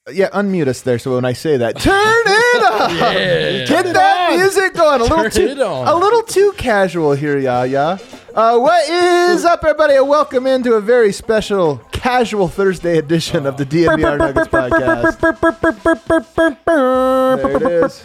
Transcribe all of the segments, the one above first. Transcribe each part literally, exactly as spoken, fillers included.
Yeah, unmute us there. So when I say that, turn it up. Yeah. Get that music going. A little Turn too, it on. a little too casual here, yeah, yeah. Uh, what is up, everybody? And welcome into a very special casual Thursday edition of the D N V R Nuggets podcast. There it is.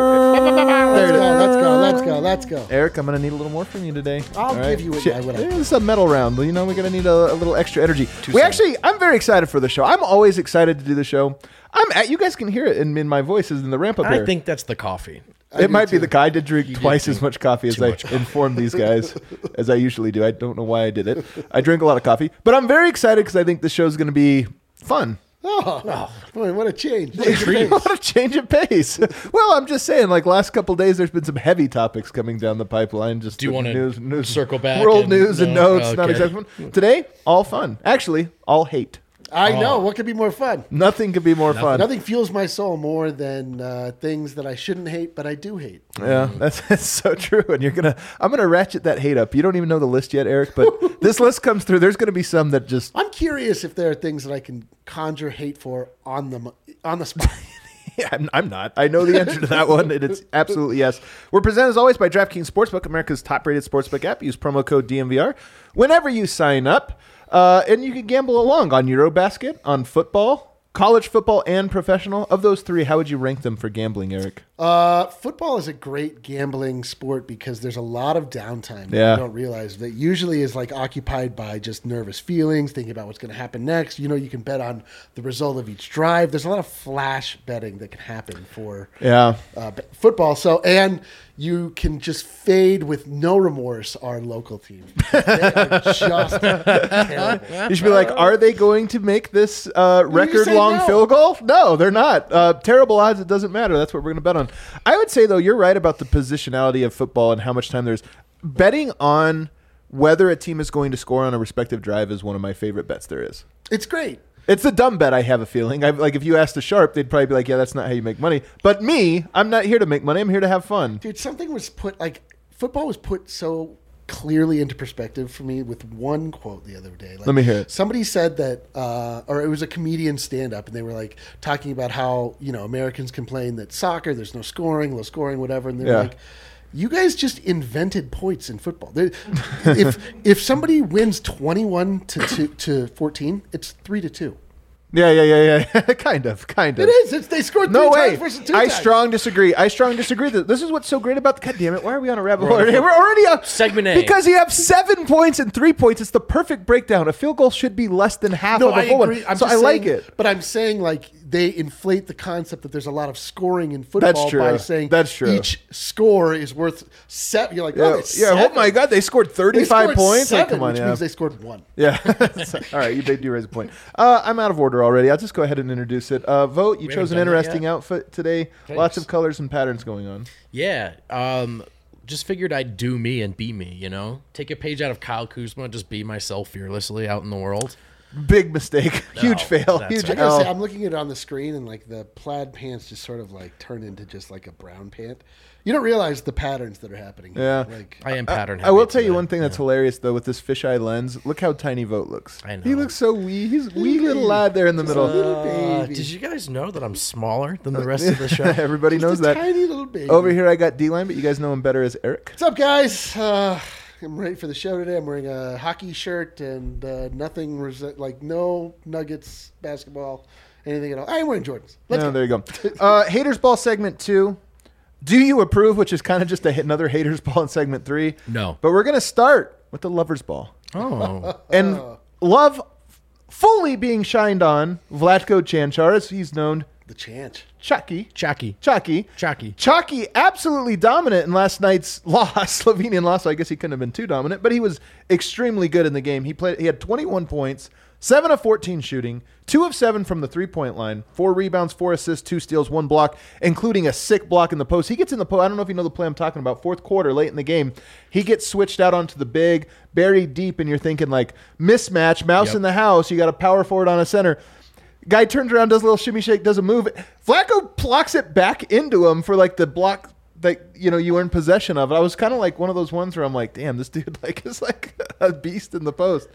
There it is. Let's go, let's go, let's go. Eric, I'm going to need a little more from you today. I'll All give you what Shit. I would. Yeah, This is a medal round. You know, we're going to need a, a little extra energy. We actually, I'm very excited for the show. I'm always excited to do the show. I'm at, you guys can hear it in, in my voice as in the ramp up I here. think that's the coffee. I It do might be too. the guy. I did drink You did twice drink as much coffee as too I much coffee. informed these guys, as I usually do. I don't know why I did it. I drink a lot of coffee. But I'm very excited because I think the show's going to be fun. Oh, boy, what a change. What a change of pace. Well, I'm just saying, like, last couple days, there's been some heavy topics coming down the pipeline. Just Do you the wanna news, news, circle back World and- news and no? notes. Not Okay. exactly fun. Today, all fun. Actually, all hate. I know. Oh. What could be more fun? Nothing could be more fun. Nothing fuels my soul more than uh, things that I shouldn't hate, but I do hate. Yeah, that's, that's so true. And you're gonna, I'm gonna ratchet that hate up. You don't even know the list yet, Eric, but this list comes through. There's gonna be some that just. I'm curious if there are things that I can conjure hate for on the on the spot. Yeah, I'm, I'm not. I know the answer to that one, and it's absolutely yes. We're presented as always by DraftKings Sportsbook, America's top-rated sportsbook app. Use promo code D M V R whenever you sign up, uh, and you can gamble along on Eurobasket, on football, college football, and professional. Of those three, how would you rank them for gambling, Eric? Uh, football is a great gambling sport because there's a lot of downtime that Yeah. you don't realize that usually is like occupied by just nervous feelings, thinking about what's going to happen next. You know, you can bet on the result of each drive. There's a lot of flash betting that can happen for Yeah. uh, b- football. So, and you can just fade with no remorse our local team. They are just terrible. You should be like, are they going to make this uh, record-long no. field goal? No, they're not. Uh, terrible odds. It doesn't matter. That's what we're going to bet on. I would say, though, you're right about the positionality of football and how much time there's. Betting on whether a team is going to score on a respective drive is one of my favorite bets there is. It's great. It's a dumb bet, I have a feeling. I, like, if you asked a sharp, they'd probably be like, yeah, that's not how you make money. But me, I'm not here to make money. I'm here to have fun. Dude, something was put, like, football was put so clearly into perspective for me with one quote the other day. Like, Let me hear it. Somebody said that, uh, or it was a comedian stand-up, and they were, like, talking about how, you know, Americans complain that soccer, there's no scoring, low scoring, whatever, and they're Yeah. like, you guys just invented points in football. There- if if somebody wins twenty-one to two, to fourteen, it's three to two. Yeah, yeah, yeah, yeah. kind of, kind of. It is. It's, they scored three No way. times versus two I times. strong disagree. I strong disagree. This is what's so great about the. God damn it! Why are we on a rabbit hole? We're already on Segment A. because you have seven points and three points. It's the perfect breakdown. A field goal should be less than half No, of a I full agree. one. I'm So just I like saying- it. But I'm saying, like, they inflate the concept that there's a lot of scoring in football true. by saying That's true. each score is worth seven. You're like, Yeah, oh, it's yeah. Oh seven. my God, they scored They thirty-five scored points. Like, seven, come on, which yeah. means they scored one. Yeah. All right, you they do raise a point. Uh, I'm out of order already. I'll just go ahead and introduce it. Uh, Vote. You We chose an haven't done that interesting yet? outfit today. Thanks. Lots of colors and patterns going on. Yeah. Um, just figured I'd do me and be me, you know? Take a page out of Kyle Kuzma, just be myself fearlessly out in the world. Big mistake. Huge No, fail. that's Huge right. I gotta L. say, I'm looking at it on the screen, and like the plaid pants just sort of like turn into just like a brown pant. You don't realize the patterns that are happening. Yeah. Like, I am pattern I will heavy tell you today. one thing that's hilarious though with this fisheye lens. Look how tiny Vote looks. I know. He looks so wee. He's a wee little lad there in the middle. little Uh, baby. did you guys know that I'm smaller than the rest of the show? Everybody Just knows a that. tiny little baby. Over here I got D-line, but you guys know him better as Eric. What's up, guys? Uh, I'm ready for the show today. I'm wearing a hockey shirt and uh, nothing, resi- like no Nuggets basketball, anything at all. I'm wearing Jordans. Let's No, go. there you go. Uh, Haters Ball segment two. Do you approve? Which is kind of just a, another Haters Ball in segment three. No. But we're going to start with the Lovers Ball. Oh. And love fully being shined on Vlatko Cancar, as he's known, The chant. Chucky. Chucky. Chucky. Chucky. Chucky absolutely dominant in last night's loss, Slovenian loss. So I guess he couldn't have been too dominant, but he was extremely good in the game. He played. He had twenty-one points, seven of fourteen shooting, two of seven from the three-point line, four rebounds, four assists, two steals, one block, including a sick block in the post. He gets in the post. I don't know if you know the play I'm talking about. Fourth quarter, late in the game, he gets switched out onto the big, buried deep, and you're thinking like mismatch, mouse Yep. in the house. You got a power forward on a center. Guy turns around, does a little shimmy shake, does a move. Flacco blocks it back into him for like the block that you know you were in possession of. I was kind of like one of those ones where I'm like, damn, this dude like is like a beast in the post.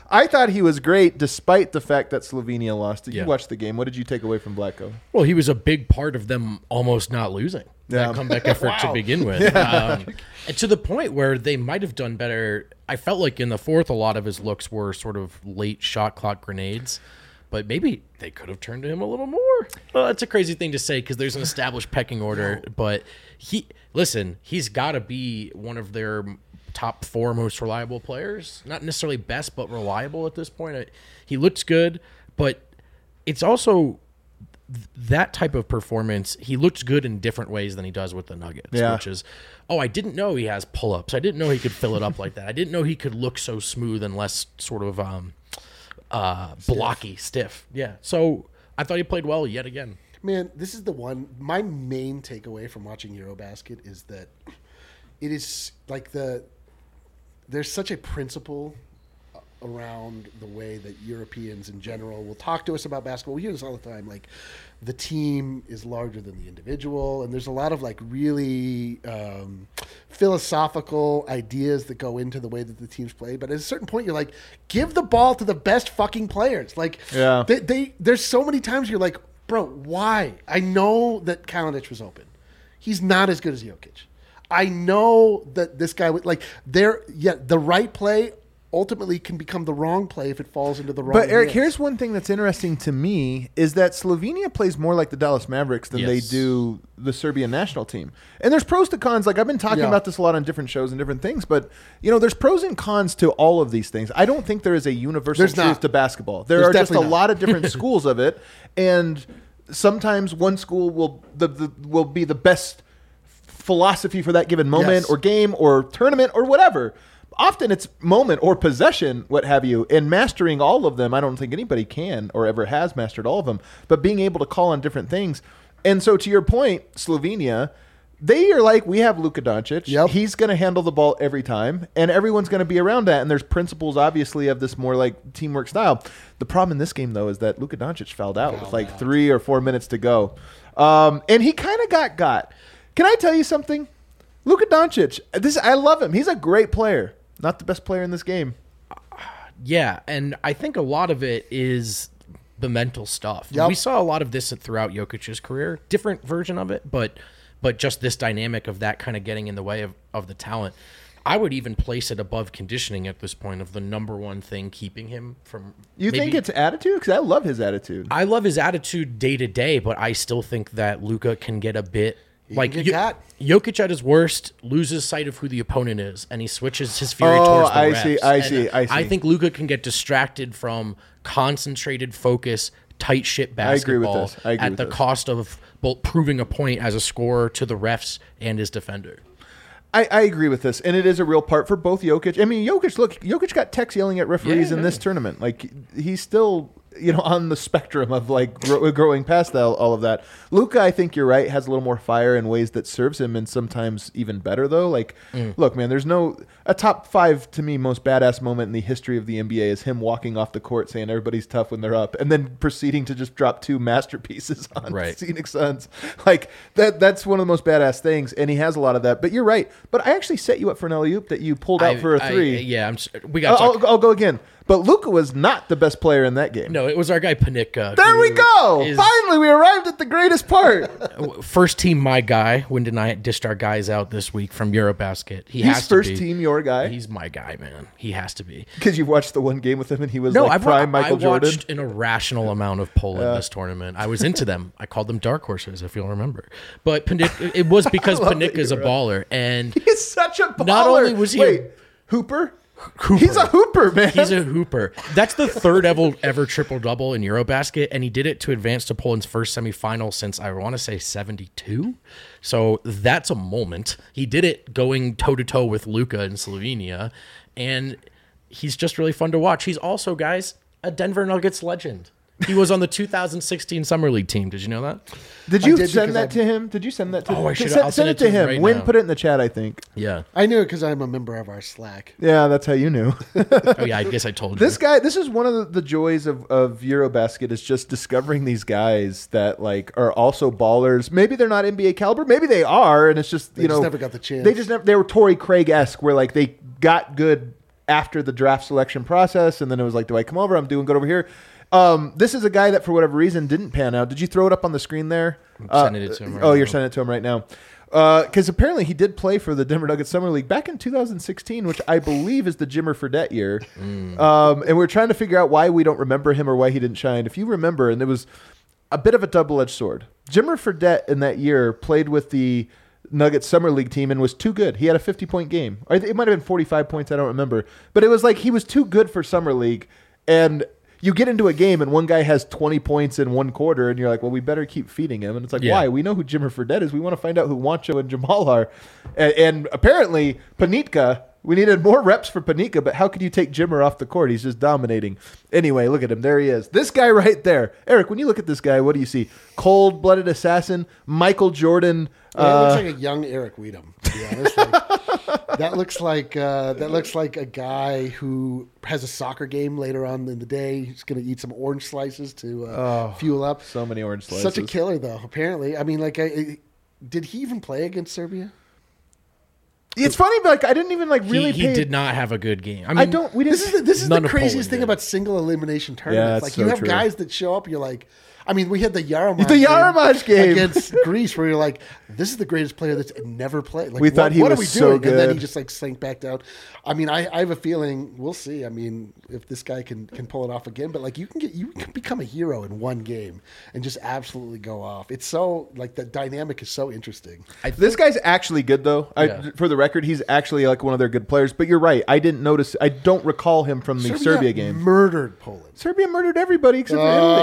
I thought he was great despite the fact that Slovenia lost. Did Yeah. you watch the game? What did you take away from Blacko? Well, he was a big part of them almost not losing Yeah. that comeback effort to begin with. Um, and to the point where they might have done better. I felt like in the fourth, a lot of his looks were sort of late shot clock grenades. But maybe they could have turned to him a little more. Well, that's a crazy thing to say because there's an established pecking order. But he, listen, he's got to be one of their top four most reliable players. Not necessarily best, but reliable at this point. I, he looks good, but it's also th- that type of performance. He looks good in different ways than he does with the Nuggets, Yeah. which is, oh, I didn't know he has pull-ups. I didn't know he could fill it up like that. I didn't know he could look so smooth and less sort of um, uh, blocky, stiff. Yeah. So I thought he played well yet again. Man, this is the one. My main takeaway from watching Eurobasket is that it is like the there's such a principle around the way that Europeans in general will talk to us about basketball. We hear this all the time. Like the team is larger than the individual, and there's a lot of like really um, philosophical ideas that go into the way that the teams play. But at a certain point, you're like, give the ball to the best fucking players. Like, Yeah. they, they there's so many times you're like, bro, why? I know that Kalinic was open. He's not as good as Jokic. I know that this guy would like there. Yeah, the right play ultimately can become the wrong play if it falls into the wrong. But Eric, hands. here's one thing that's interesting to me is that Slovenia plays more like the Dallas Mavericks than they Yes. do the Serbian national team. And there's pros to cons. Like I've been talking Yeah. about this a lot on different shows and different things, but you know, there's pros and cons to all of these things. I don't think there is a universal There's truth not. to basketball. There There's are just a definitely not. lot of different schools of it, and sometimes one school will the, the will be the best philosophy for that given moment Yes. or game or tournament or whatever. Often it's moment or possession, what have you, and mastering all of them. I don't think anybody can or ever has mastered all of them, but being able to call on different things. And so to your point, Slovenia, they are like, we have Luka Doncic. Yep. He's going to handle the ball every time, and everyone's going to be around that. And there's principles, obviously, of this more like teamwork style. The problem in this game, though, is that Luka Doncic fouled out with Fouled like out. three or four minutes to go. Um, and he kind of got got. Can I tell you something? Luka Doncic, this I love him. He's a great player. Not the best player in this game. Yeah, and I think a lot of it is the mental stuff. Yep. We saw a lot of this throughout Jokic's career, different version of it, but but just this dynamic of that kind of getting in the way of, of the talent. I would even place it above conditioning at this point of the number one thing keeping him from. You maybe- think it's attitude? Because I love his attitude. I love his attitude day to day, but I still think that Luka can get a bit like get Jo- got. Jokic at his worst loses sight of who the opponent is, and he switches his fury Oh, towards the I refs. see, I And see, I see. I think Luka can get distracted from concentrated focus, tight shit I agree with basketball this. I agree at with the this. cost of both proving a point as a scorer to the refs and his defender. I, I agree with this, and it is a real part for both Jokic. I mean, Jokic, look, Jokic got texts yelling at referees Yeah, in this yeah. tournament. Like, he's still, you know, on the spectrum of, like, gro- growing past all, all of that. Luka, I think you're right, has a little more fire in ways that serves him, and sometimes even better, though. Like, Mm. look, man, there's no... A top five, to me, most badass moment in the history of the N B A is him walking off the court saying everybody's tough when they're up, and then proceeding to just drop two masterpieces on Right. Phoenix Suns. Like, that that's one of the most badass things, and he has a lot of that. But you're right. But I actually set you up for an alley-oop that you pulled out I- for a I- three. yeah, I'm. s- We I'll, got. I'll, I'll go again. But Luka was not the best player in that game. No, it was our guy Panicka. There we who go. is- Finally, we arrived at the greatest part. First team, my guy. When did I dished our guys out this week from Eurobasket? He He's has to first be. team, your guy, He's my guy, man. He has to be. because you watched the one game with him and he was No, like I've prime wa- Michael I Jordan. watched an irrational amount of Poland this tournament. I was into them. I called them dark horses, if you'll remember. But Panik, it was because love that Panicka's a you're baller, and He's such a baller. Not only was he a- Wait, Hooper? Hooper. He's a hooper, man. he's a hooper. That's the third ever ever triple double in Eurobasket, and he did it to advance to Poland's first semifinal since I want to say seventy-two. So that's a moment. He did it going toe to toe with Luka in Slovenia, and he's just really fun to watch. He's also, guys, a Denver Nuggets legend. He was on the two thousand sixteen Summer League team. Did you know that? Did you did send because that I- to him? Did you send that to Oh, I to- should've- Send, I'll send send it it to to him him. right Win now. put it in the chat, I think. Yeah. I knew it because I'm a member of our Slack. Yeah, that's how you knew. Oh yeah. I guess I told you. This guy, this is one of the, the joys of, of Eurobasket is just discovering these guys that like are also ballers. Maybe they're not N B A caliber, maybe they are, and it's just They you just know never got the chance. They just never. They were Torrey Craig esque, where like they got good after the draft selection process, and then it was like, do I come over? I'm doing good over here. Um, this is a guy that for whatever reason didn't pan out. Did you throw it up on the screen there? I'm Uh, sending it to him right oh, now. you're sending it to him right now. Because uh, apparently he did play for the Denver Nuggets Summer League back in two thousand sixteen, which I believe is the Jimmer Fredette year. Mm. Um, and we're trying to figure out why we don't remember him or why he didn't shine. If you remember, and it was a bit of a double-edged sword. Jimmer Fredette in that year played with the Nuggets Summer League team and was too good. He had a fifty-point game. Or it might have been forty-five points. I don't remember. But it was like he was too good for Summer League. And you get into a game and one guy has twenty points in one quarter and you're like, well, we better keep feeding him. And it's like, Yeah. why? We know who Jimmer Fredette is. We want to find out who Juancho and Jamal are. And, and apparently Panitka, we needed more reps for Panitka, but how could you take Jimmer off the court? He's just dominating. Anyway, look at him. There he is. This guy right there. Eric, when you look at this guy, what do you see? Cold-blooded assassin, Michael Jordan. Yeah, it uh, looks like a young Eric Weedham, to be honest. Like, that looks like uh, that looks like a guy who has a soccer game later on in the day. He's going to eat some orange slices to uh, Oh, fuel up. so many orange slices. Such a killer, though. Apparently, I mean, like, I, I, did he even play against Serbia? It's funny, but like I didn't even like really. he, he pay- did not have a good game. I mean, I don't. We didn't. This is the, this is None the of Poland craziest thing did. about single elimination tournaments. that's like so you have true. guys that show up, you're like, I mean, we had the Yaramaz The Yaramaz game. against Greece, where you're like, this is the greatest player that's never played. Like, We what, thought he what was are we so doing? And then he good. just like sank back down. I mean, I, I have a feeling we'll see. I mean, if this guy can can pull it off again, but like you can get you can become a hero in one game and just absolutely go off. It's so like the dynamic is so interesting. I This think- guy's actually good, though. I, Yeah. For the record, he's actually like one of their good players. But you're right. I didn't notice. I don't recall him from the Serbia, game. murdered Poland. Serbia murdered everybody except for Uh, Italy.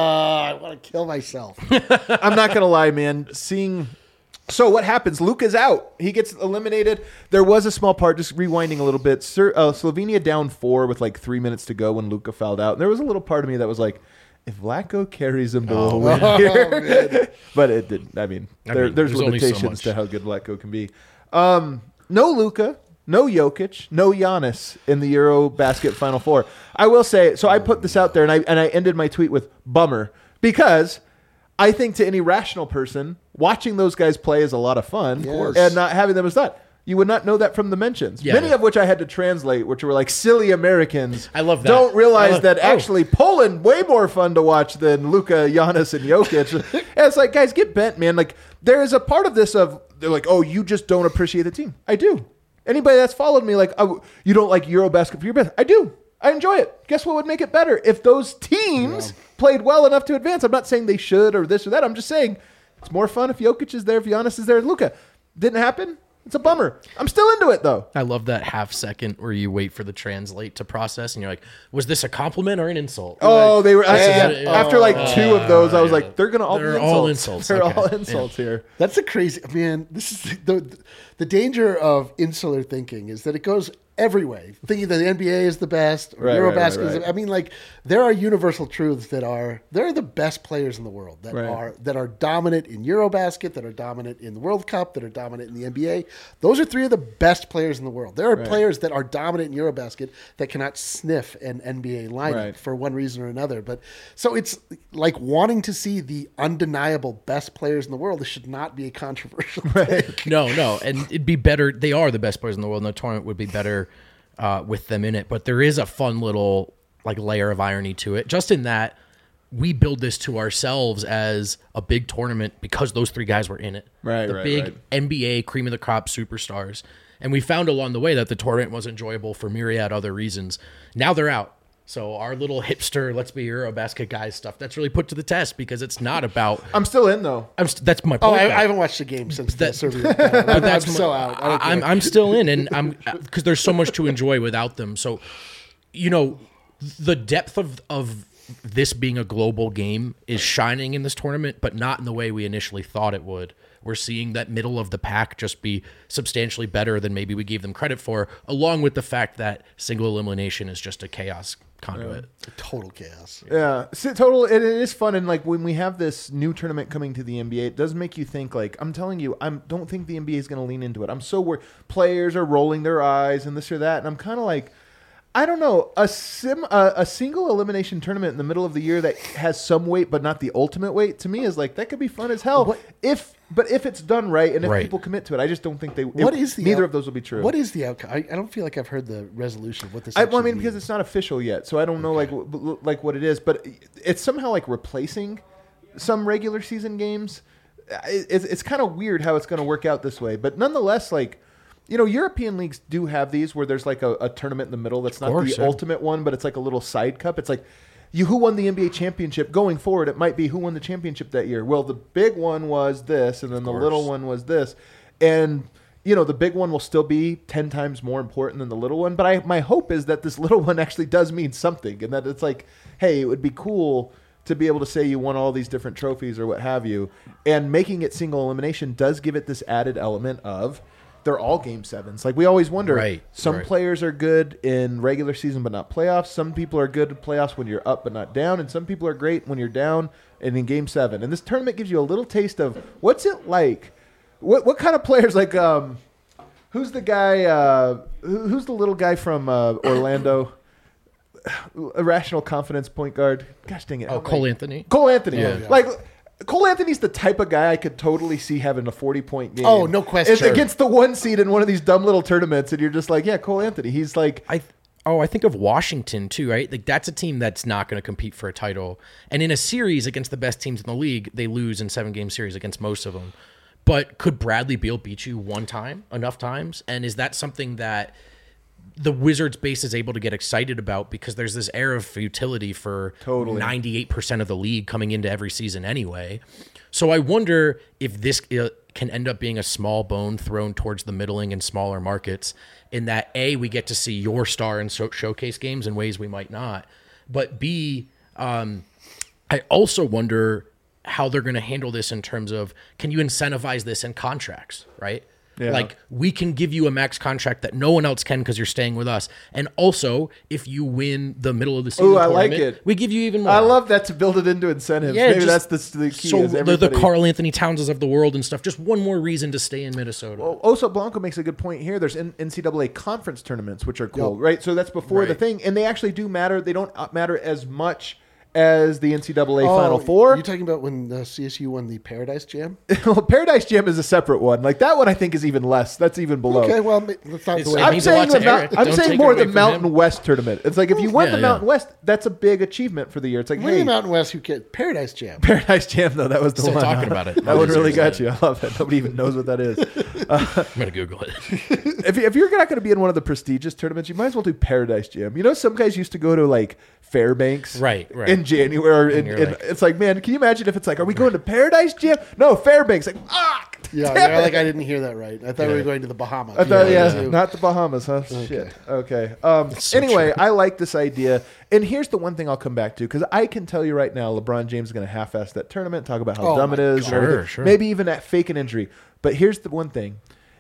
I want to kill myself. I'm not gonna lie, man. Seeing. So what happens? Luka's out. He gets eliminated. There was a small part, just rewinding a little bit. Sir, uh, Slovenia down four with like three minutes to go when Luka fouled out. And there was a little part of me that was like, if Vlatko carries him to a win here, but it didn't. I mean, I there, mean, there's, there's only so limitations much. to how good Vlatko can be. Um, no Luka, no Jokic, no Giannis in the Euro Basket Final Four. I will say. So I put this out there, and I and I ended my tweet with bummer because I think to any rational person, watching those guys play is a lot of fun, course. and not having them is not. You would not know that from the mentions. Yeah. Many of which I had to translate, which were like silly Americans. I love that. Don't realize I love- that oh. actually Poland way more fun to watch than Luka, Giannis, and Jokic. And it's like, guys, get bent, man. Like there is a part of this of they're like, oh, you just don't appreciate the team. I do. Anybody that's followed me, like, oh, you don't like Eurobasket for your best. I do. I enjoy it. Guess what would make it better? If those teams Yeah. played well enough to advance. I'm not saying they should or this or that. I'm just saying it's more fun if Jokic is there, if Giannis is there, and Luka. Didn't happen. It's a bummer. I'm still into it though. I love that half second where you wait for the translate to process, and you're like, "Was this a compliment or an insult?" Oh, they were. I- Yeah. yeah. After like two of those, I was yeah. like, "They're gonna all They're be insults. all insults, They're okay. all Yeah. insults here." That's a crazy man. This is the the danger of insular thinking is that it goes every way. Thinking that the N B A is the best, or Right, Eurobasket right, is. right, The, right. I mean, like there are universal truths that are there are the best players in the world that Right. are that are dominant in Eurobasket, that are dominant in the World Cup, that are dominant in the N B A. Those are three of the best players in the world. There are Right. players that are dominant in Eurobasket that cannot sniff an N B A lineup Right. for one reason or another. But so it's like wanting to see the undeniable best players in the world. This should not be a controversial thing. No, no, and it'd be better. They are the best players in the world, and the tournament would be better uh, with them in it. But there is a fun little like layer of irony to it, just in that we build this to ourselves as a big tournament because those three guys were in it. Right, the right, big right. N B A cream of the crop superstars, and we found along the way that the tournament was enjoyable for myriad other reasons. Now they're out. So our little hipster, let's be Eurobasket guys stuff, that's really put to the test because it's not about. I'm still in though. I'm st- that's my Oh, point. I, though. I haven't watched the game since the That- Serbia. I'm, I'm that's so my- out. I don't I'm care. I'm still in, and I'm because there's so much to enjoy without them. So, you know, the depth of of this being a global game is shining in this tournament, but not in the way we initially thought it would. We're seeing that middle of the pack just be substantially better than maybe we gave them credit for, along with the fact that single elimination is just a chaos conduit. Total chaos. Yeah, so total. It, it is fun, and like when we have this new tournament coming to the N B A, it does make you think. Like I'm telling you, I don't think the N B A is going to lean into it. I'm so worried. Players are rolling their eyes and this or that, and I'm kind of like, I don't know, a sim, a, a single elimination tournament in the middle of the year that has some weight but not the ultimate weight. To me, is like that could be fun as hell What- if but if it's done right and if Right. people commit to it, I just don't think they. What it- is the neither out- of those will be true. What is the outcome? I, I don't feel like I've heard the resolution of what this. I, well, I actually mean, because means. it's not official yet, so I don't know like w- w- like what it is, but it's somehow like replacing some regular season games. It, it's it's kind of weird how it's going to work out this way, but nonetheless, like you know, European leagues do have these where there's like a, a tournament in the middle that's not course, the yeah. ultimate one, but it's like a little side cup. It's like you who won the N B A championship going forward. It might be who won the championship that year. Well, the big one was this, and then the course. little one was this, and you know, the big one will still be ten times more important than the little one. But I, my hope is that this little one actually does mean something, and that it's like, hey, it would be cool to be able to say you won all these different trophies or what have you. And making it single elimination does give it this added element of they're all game sevens. Like we always wonder, Right, some right. players are good in regular season but not playoffs. Some people are good in playoffs when you're up but not down. And some people are great when you're down and in game seven. And this tournament gives you a little taste of what's it like. What what kind of players like um, who's the guy? Uh, who, who's the little guy from uh, Orlando? Irrational confidence point guard. Gosh dang it! Oh, How am I- Cole Anthony. Cole Anthony. Yeah. Yeah. Like Cole Anthony's the type of guy I could totally see having a forty point game. Oh, no question. It's against the one seed in one of these dumb little tournaments, and you're just like, yeah, Cole Anthony. He's like, I oh, I think of Washington too, right? Like that's a team that's not going to compete for a title. And in a series against the best teams in the league, they lose in seven game series against most of them. But could Bradley Beal beat you one time, enough times? And is that something that the Wizards base is able to get excited about because there's this air of futility for Totally. ninety-eight percent of the league coming into every season anyway. So I wonder if this uh, can end up being a small bone thrown towards the middling and smaller markets in that A, we get to see your star in so- showcase games in ways we might not. But B, um, I also wonder how they're going to handle this in terms of, can you incentivize this in contracts, right? Yeah. Like we can give you a max contract that no one else can because you're staying with us. And also, if you win the middle of the season Ooh, I like tournament, it. we give you even more. I love that to build it into incentives. Yeah, Maybe just- that's the, the key. so is the, the everybody- Carl Anthony Townses of the world and stuff. Just one more reason to stay in Minnesota. Well, Oso Blanco makes a good point here. There's N- NCAA conference tournaments, which are cool, Yep. right? So that's before the Right. thing, and they actually do matter. They don't uh, matter as much as the N C double A Oh, Final Four. You talking about when the C S U won the Paradise Jam? Well, Paradise Jam is a separate one. Like that one, I think is even less. That's even below. Okay, well, ma- that's not It's- the way. it I'm means a saying lot the to Mount- Eric. I'm Don't saying take more it the away from Mountain him. West tournament. It's like if you won Yeah, the yeah. Mountain West, that's a big achievement for the year. It's like, Winning hey, Mountain West, who get Paradise Jam? Paradise Jam though. That was the Still one. talking about it. That one really Seriously. got you. I love that. Nobody even knows what that is. I'm gonna Google it. if, you, if you're not going to be in one of the prestigious tournaments, you might as well do Paradise Jam. You know, some guys used to go to like Fairbanks, Right, right. in January. And And, you're and like- it's like, man, can you imagine if it's like, are we going to Paradise Jam? No, Fairbanks. Like, ah, Yeah, damn yeah, it. like I didn't hear that right. I thought we were going to the Bahamas. I thought, yeah, too. not the Bahamas, huh? Shit. Okay. Um, so anyway, true. I like this idea. And here's the one thing I'll come back to, because I can tell you right now, LeBron James is going to half-ass that tournament, talk about how Oh dumb my it is. and God. everything. Sure, sure. Maybe even that fake an injury. But here's the one thing.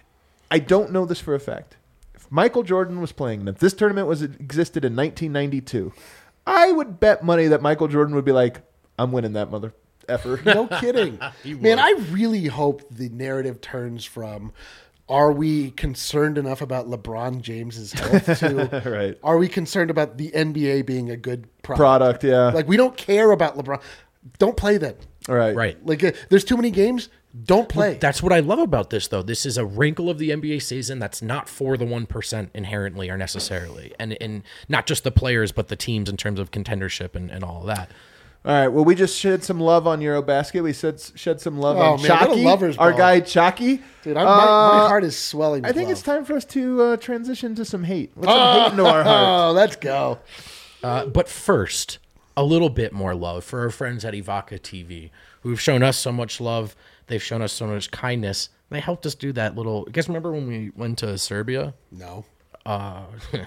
I don't know this for a fact. If Michael Jordan was playing, and if this tournament was existed in nineteen ninety-two, I would bet money that Michael Jordan would be like, I'm winning that mother effer. No kidding. You Man, would. I really hope the narrative turns from are we concerned enough about LeBron James's health to Right. are we concerned about the N B A being a good product? Product, yeah. Like we don't care about LeBron. Don't play then. All right. Right. Like uh, there's too many games. Don't play. That's what I love about this, though. This is a wrinkle of the N B A season that's not for the one percent inherently or necessarily. And, and not just the players, but the teams in terms of contendership and, and all of that. All right. Well, we just shed some love on Eurobasket. We said shed some love Oh, on man, what a Chalky, lover's our ball. guy Chalky. Dude, I'm, my, my Uh, heart is swelling. I with think love. it's time for us to uh, transition to some hate. Let's some hate into our hearts. Oh, let's go. Uh, but first, a little bit more love for our friends at Ivaka T V, who've shown us so much love. They've shown us so much kindness. They helped us do that little. You guys remember when we went to Serbia? No. Uh,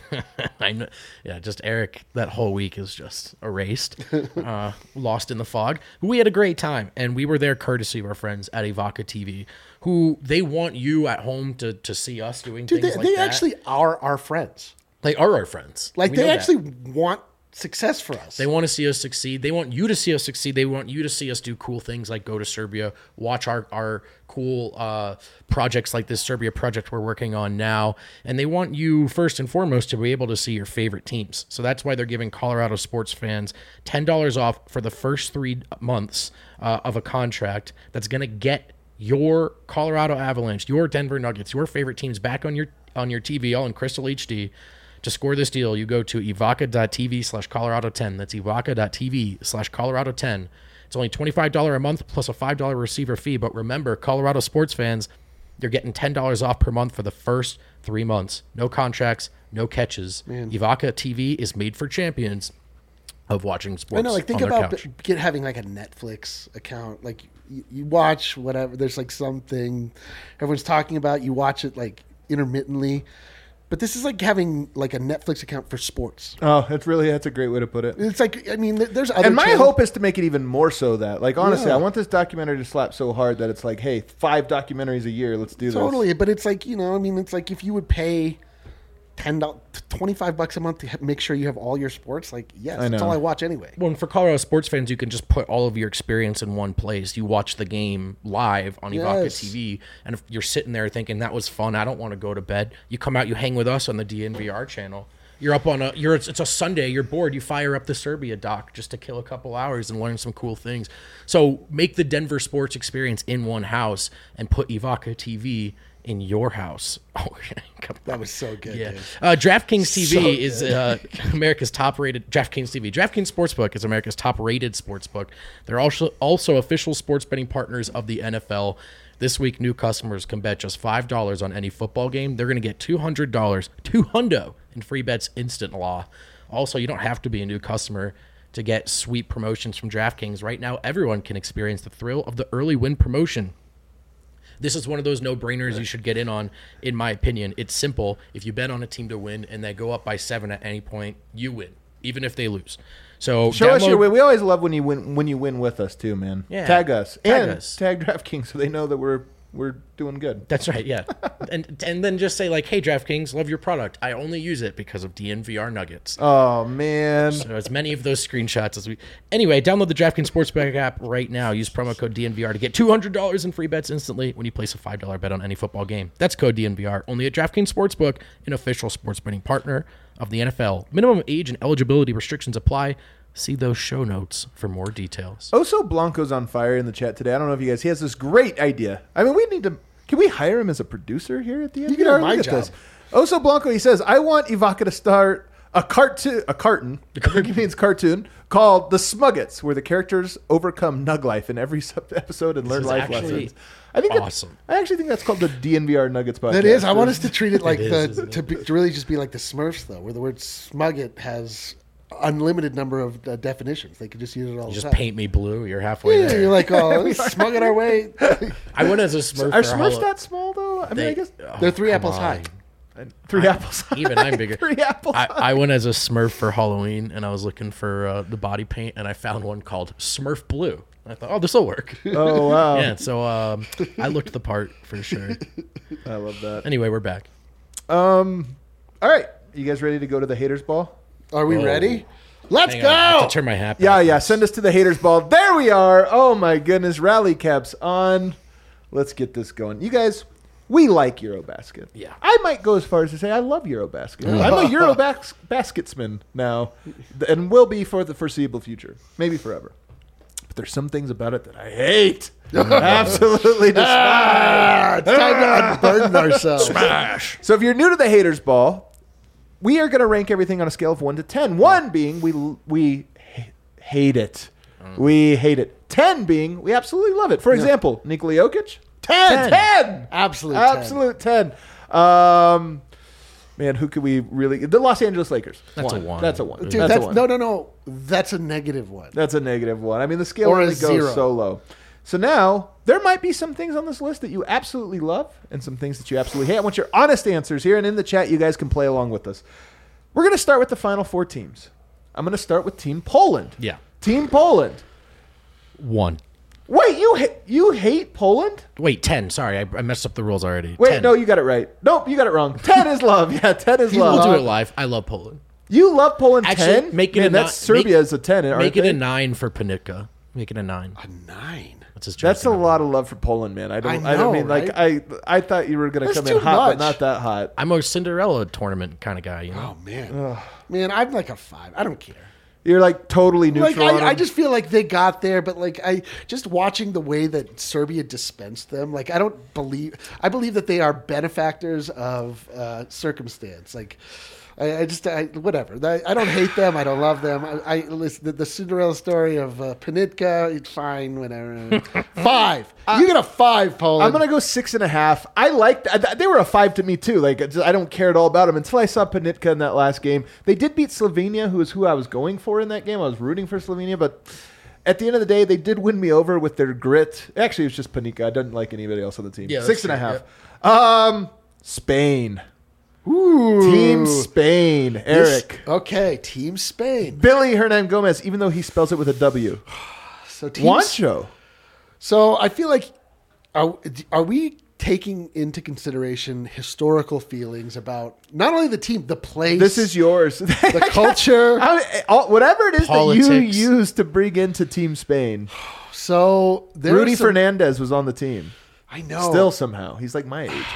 I know, yeah, just Eric. That whole week is just erased, uh, lost in the fog. We had a great time, and we were there courtesy of our friends at Ivaka T V, who they want you at home to to see us doing Dude, things they, like they that. actually are our friends. They are our friends. Like We they know that. actually want success for us. They want to see us succeed. They want you to see us succeed. They want you to see us do cool things like go to Serbia, watch our, our cool uh, projects like this Serbia project we're working on now. And they want you, first and foremost, to be able to see your favorite teams. So that's why they're giving Colorado sports fans ten dollars off for the first three months uh, of a contract that's going to get your Colorado Avalanche, your Denver Nuggets, your favorite teams back on your on your T V, all in Crystal H D. To score this deal, you go to evoca.tv slash Colorado 10. That's evoca.tv slash Colorado 10. It's only twenty-five dollars a month plus a five dollars receiver fee. But remember, Colorado sports fans, you're getting ten dollars off per month for the first three months. No contracts, no catches. Man. Evoca T V is made for champions of watching sports. I know, like think on their about couch. b- get having like a Netflix account. Like you, you watch whatever. There's like something everyone's talking about. You watch it like intermittently. But this is like having like a Netflix account for sports. Oh, that's really that's a great way to put it. It's like I mean, there- there's other. And my channels- hope is to make it even more so that, like, honestly, Yeah. I want this documentary to slap so hard that it's like, hey, five documentaries a year, let's do this. totally. But it's like you know, I mean, it's like if you would pay ten dollars, twenty-five bucks a month to ha- make sure you have all your sports. Like, yes, I that's know. all I watch anyway. Well, and for Colorado sports fans, you can just put all of your experience in one place. You watch the game live on Evoca Yes. T V, and if you're sitting there thinking that was fun, I don't want to go to bed. You come out, you hang with us on the D N V R channel. You're up on a. You're it's, it's a Sunday. You're bored. You fire up the Serbia doc just to kill a couple hours and learn some cool things. So make the Denver sports experience in one house and put Evoca T V in your house. Oh, come That was so good. yeah. Dude. Uh, DraftKings T V So is uh, America's top-rated DraftKings T V. DraftKings Sportsbook is America's top-rated sportsbook. They're also also official sports betting partners of the N F L. This week, new customers can bet just five dollars on any football game. They're going to get two hundred dollars, two hundo in free bets instant law. Also, you don't have to be a new customer to get sweet promotions from DraftKings. Right now, everyone can experience the thrill of the early win promotion. This is one of those no-brainers you should get in on, in my opinion. It's simple. If you bet on a team to win and they go up by seven at any point, you win, even if they lose. So Show us download- your win. We always love when you win when you win with us too, man. Yeah. Tag us Tag and us. tag DraftKings so they know that we're we're doing good. That's right, yeah. and and then just say, like, hey, DraftKings, love your product. I only use it because of D N V R Nuggets. Oh man. So as many of those screenshots as we... Anyway, download the DraftKings Sportsbook app right now. Use promo code D N V R to get two hundred dollars in free bets instantly when you place a five dollars bet on any football game. That's code D N V R. Only at DraftKings Sportsbook, an official sports betting partner of the N F L. Minimum age and eligibility restrictions apply. See those show notes for more details. Oso Blanco's on fire in the chat today. I don't know if you guys. He has this great idea. I mean, we need to. Can we hire him as a producer here at the end? You can have my job. Oso Blanco. He says, "I want Evoca to start a cartoon. A carton. I think he means cartoon called The Smuggets, where the characters overcome Nug life in every sub- episode and learn is life actually lessons." I think that- awesome. I actually think that's called the D N V R Nuggets podcast. That is. I want us to treat it like is, the isn't it? to, be, to really just be like the Smurfs though, where the word "smugget" has unlimited number of uh, definitions. They could just use it all You the just time. paint me blue. You're halfway Yeah, there. you're like, oh, smug it our way. I went as a Smurf. Are for Smurfs Hall- that small though? I mean, They- I guess oh, They're three come apples on. high. three apples. Even I'm bigger. three apples. I, I went as a Smurf for Halloween, and I was looking for uh, the body paint, and I found one called Smurf Blue. I thought, oh, this will work. oh wow. Yeah, so um, I looked the part for sure. I love that. Anyway, we're back. Um, all right, you guys ready to go to the haters ball? Are we Whoa. ready? Let's Hang on, I have go. to turn my hat. Yeah, back. yeah. Send us to the haters ball. There we are. Oh my goodness, rally caps on. Let's get this going. You guys, we like Eurobasket. Yeah. I might go as far as to say I love Eurobasket. I'm a Eurobas- basketsman now, and will be for the foreseeable future, maybe forever. But there's some things about it that I hate. Absolutely despise. Ah, it's time to unburden ourselves. Smash. So if you're new to the haters ball, we are going to rank everything on a scale of one to ten. One being we we ha- hate it, we hate it. Ten being we absolutely love it. For example, Nikola Jokic, ten, Ten. ten, Absolute ten. absolute ten. Um, man, who could we really? The Los Angeles Lakers. That's a one. That's a one. Dude, that's, that's, a one. no, no, no. That's a negative one. That's a negative one. I mean, the scale Or a only goes zero. so low. So now there might be some things on this list that you absolutely love and some things that you absolutely hate. I want your honest answers here, and in the chat, you guys can play along with us. We're going to start with the final four teams. I'm going to start with Team Poland. Yeah. Team Poland. One. Wait, you ha- you hate Poland? Wait, ten. Sorry, I, I messed up the rules already. Wait, ten. no, you got it right. Nope, you got it wrong. ten is love. Yeah, ten is We'll love. do it live. I love Poland. You love Poland Actually, ten? make it Man, a that's ni- make- Serbia is a ten. aren't Make it they? a nine for Panica. Make it a nine. A nine. That's his. That's a jersey number. lot of love for Poland, man. I don't. I, I don't know, mean like I. I thought you were going to That's come in too hot, but much. not that hot. I'm a Cinderella tournament kind of guy. You know. Oh man, man, I'm like a five. I don't care. You're like totally Like neutral. on I, I them. just feel like they got there, but like I just watching the way that Serbia dispensed them, like I don't believe. I believe that they are benefactors of uh, circumstance. Like I, I just I, whatever. I, I don't hate them. I don't love them. I, I listen the, the Cinderella story of uh, Panitka. It's fine. Whatever. Five. You get a five, Poland. I'm gonna go six and a half. I liked. I- They were a five to me too. Like I don't care at all about them until I saw Panitka in that last game. They did beat Slovenia, who is who I was going for in that game. I was rooting for Slovenia, but at the end of the day, they did win me over with their grit. Actually, it was just Panitka. I didn't like anybody else on the team. Yeah, that's six and a true, half. Um, Spain. Ooh. Team Spain. This- Eric. okay, Team Spain. Billy Hernan Gomez, even though he spells it with a W. So Team Juancho. So I feel like are are we taking into consideration historical feelings about not only the team, the place, This is yours. the culture. I- all- whatever it is that Politics. you use to bring into Team Spain. So there Rudy are some, Fernandez was on the team. I know. Still somehow. He's like my age.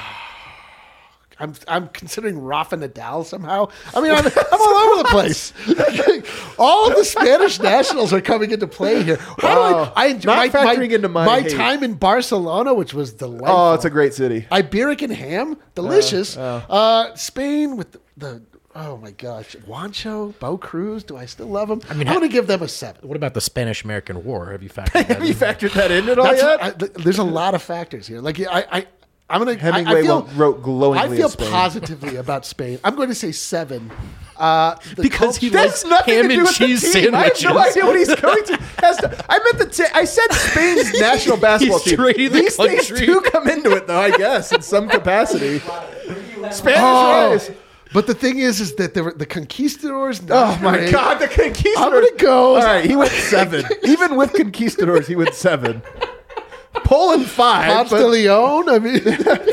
I'm I'm considering Rafa Nadal somehow. I mean, I'm, I'm all over the place. All of the Spanish nationals are coming into play here. How Wow. do I, I enjoy Not my, factoring my, into my my hate. time in Barcelona, which was delightful. Oh, it's a great city. Iberican ham, delicious. Uh, Uh, Spain with the, the oh my gosh, Juancho, Bo Cruz. Do I still love them? I mean, I'm ha- going to give them a seven. What about the Spanish-American War? Have you factored that Have you in? factored that in at all That's yet? I, th- there's a lot of factors here. Like I, I I'm gonna. Hemingway I, I feel, wrote glowingly I feel of Spain. positively about Spain. I'm going to say seven. Uh, the Because he culture- That's nothing ham to do and with cheese the team. I have no sandwiches. idea what he's going to. Has to I meant the. T- I said Spain's national basketball He's team. trading the These things country. do come into it, though. I guess in some capacity. Spanish Oh, rise. but the thing is, is that the the conquistadors. Oh not my great. God, the conquistadors. I'm gonna go- All right, he went seven. Even with conquistadors, he went seven. Poland five. Ponce but- de Leon. I mean,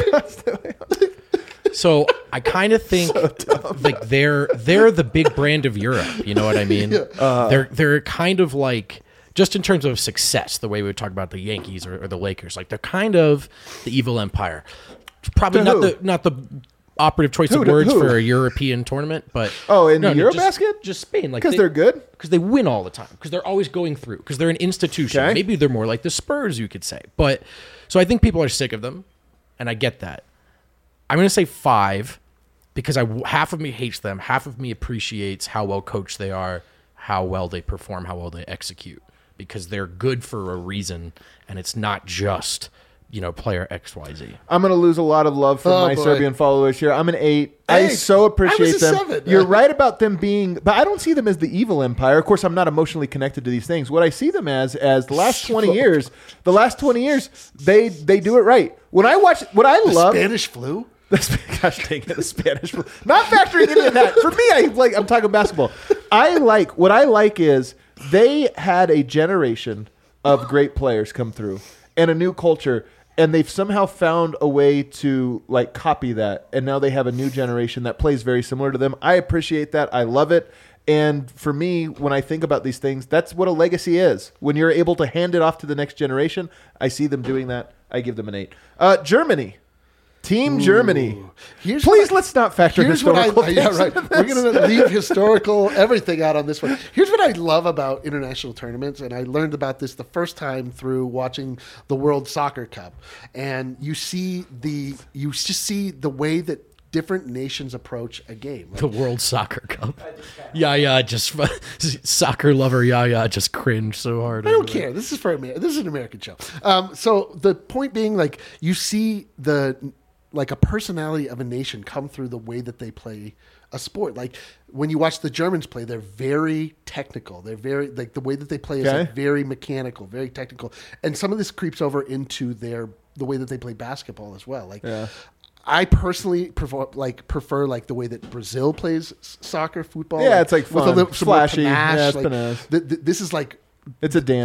So I kind of think like they're they're the big brand of Europe. You know what I mean? They're they're kind of like just in terms of success, the way we would talk about the Yankees or, or the Lakers. Like they're kind of the evil empire. Probably To not who? the not the operative choice Who of to- words who? for a European tournament, but Oh, in no, no, just, Eurobasket? just Spain, like Because they're good. because they win all the time because they're always going through because they're an institution. Okay. Maybe they're more like the Spurs, you could say. But so I think people are sick of them, and I get that. I'm going to say five because I half of me hates them, half of me appreciates how well coached they are, how well they perform, how well they execute because they're good for a reason, and it's not just you know player X Y Z. I'm going to lose a lot of love from Oh, my boy. Serbian followers here. I'm an eight. I Hey, so I was appreciate a them. seven. You're right about them being, but I don't see them as the evil empire. Of course, I'm not emotionally connected to these things. What I see them as, as the last twenty years, the last twenty years, they they do it right. When I watch, what I love, Spanish flu. gosh dang it, the Spanish, not factoring any of that. For me, I like. I'm talking basketball. I like what I like is they had a generation of great players come through and a new culture. And they've somehow found a way to like copy that, and now they have a new generation that plays very similar to them. I appreciate that. I love it. And for me, when I think about these things, that's what a legacy is. When you're able to hand it off to the next generation, I see them doing that. I give them an eight. Uh, Germany. Team Germany. Here's Please what I- let's not factor Here's what I, historical yeah, things right. into We're this. going to leave historical everything out on this one. Here's what I love about international tournaments, and I learned about this the first time through watching the World Soccer Cup. And you see the you just see the way that different nations approach a game. Like, The World Soccer Cup. Yeah, yeah, just soccer lover. Yeah, yeah, just cringe so hard. I don't care. This is for America. This is an American show. Um, so the point being, like, you see the like a personality of a nation come through the way that they play a sport. Like when you watch the Germans play, they're very technical. They're very like the way that they play is Okay. like very mechanical, very technical. And some of this creeps over into their the way that they play basketball as well. Like. Yeah. I personally prefer like prefer like the way that Brazil plays s- soccer, football. Yeah, it's like with fun, little- some more flashy. panache. Yeah, it's Like, panache. th- th- this is like It's a dance.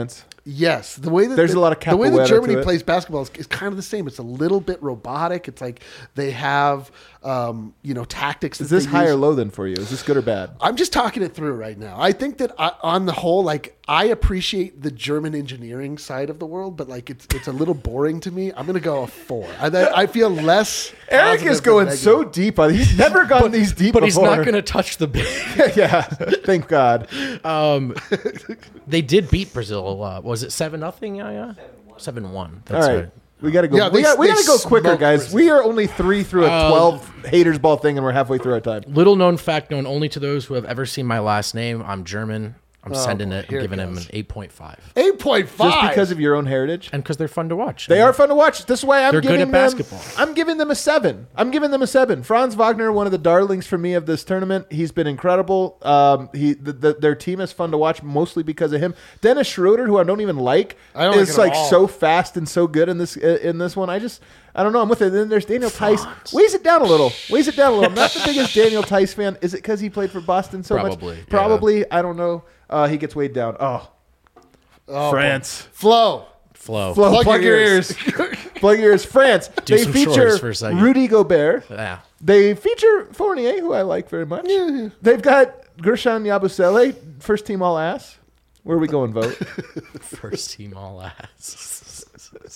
Yes, the way that There's the, a lot of the way that capoeira Germany to it. plays basketball is, is kind of the same. It's a little bit robotic. It's like they have, um, you know, tactics. Is that this they high use. or low then for you? Is this good or bad? I'm just talking it through right now. I think that I, on the whole, like I appreciate the German engineering side of the world, but like it's it's a little boring to me. I'm gonna go a four. I, I feel less. Eric positive is than going negative. so deep on. He's never gone these deep But before. he's not going to touch the big. yeah, thank God. Um, they did beat Brazil. Uh, was it seven nothing? Yeah, yeah, seven one. All That's right. right. We gotta go. Yeah, we they- got, we they gotta go quicker, smoked guys. Brazil. We are only three through a Uh, twelve haters ball thing, and we're halfway through our time. Little known fact known only to those who have ever seen my last name. I'm German. I'm sending boy, it. here I'm it giving him an goes. eight point five. Eight point five. Just because of your own heritage. And because they're fun to watch. They are fun to watch. This is why I'm They're good giving at them, basketball. I'm giving them a seven. I'm giving them a seven. Franz Wagner, one of the darlings for me of this tournament. He's been incredible. Um, he the, the, their team is fun to watch mostly because of him. Dennis Schroeder, who I don't even like, I don't like is it at like all. so fast and so good in this in this one. I just I don't know. I'm with it. Then there's Daniel Tice. Weighs it down a little. Weighs it down a little. I'm not the biggest Daniel Tice fan. Is it because he played for Boston so Probably, much? yeah. Probably. I don't know. Uh, he gets weighed down. Oh, Oh, France. Flow. Flow. Flo, Plug plug, your your ears. plug your ears. France. Do they some feature chores for a second. Rudy Gobert. Yeah. They feature Fournier, who I like very much. They've got Gershon Yabusele, first team all ass. Where are we going, vote? First team all ass.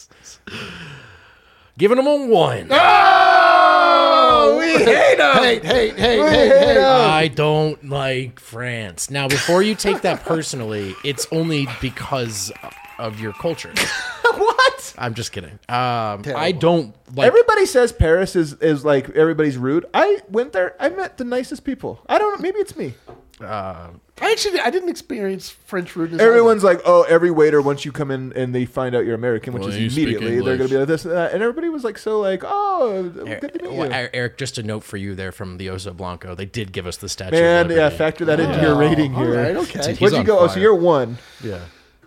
Giving them a one. oh, we hate him. Hate, hate, hate, We hate, hate hate. him. I don't like France. Now, before you take that personally, it's only because of your culture. What? I'm just kidding. Um, I Terrible. don't like. Everybody says Paris is, is like everybody's rude. I went there. I met the nicest people. I don't know. Maybe it's me. uh, I actually I didn't experience French rudeness. Everyone's like, oh, every waiter, once you come in and they find out you're American, which Well, is you speak immediately, they're going to English. be like this and that. And everybody was like, so like, oh, good to meet you. well, Eric, just a note for you there from the Oso Blanco. They did give us the statue. Man, of yeah, Liberty. factor that into Oh, your rating all here. right, okay. Dude, he's What'd you on go? Oh, so fire. you're one. Yeah.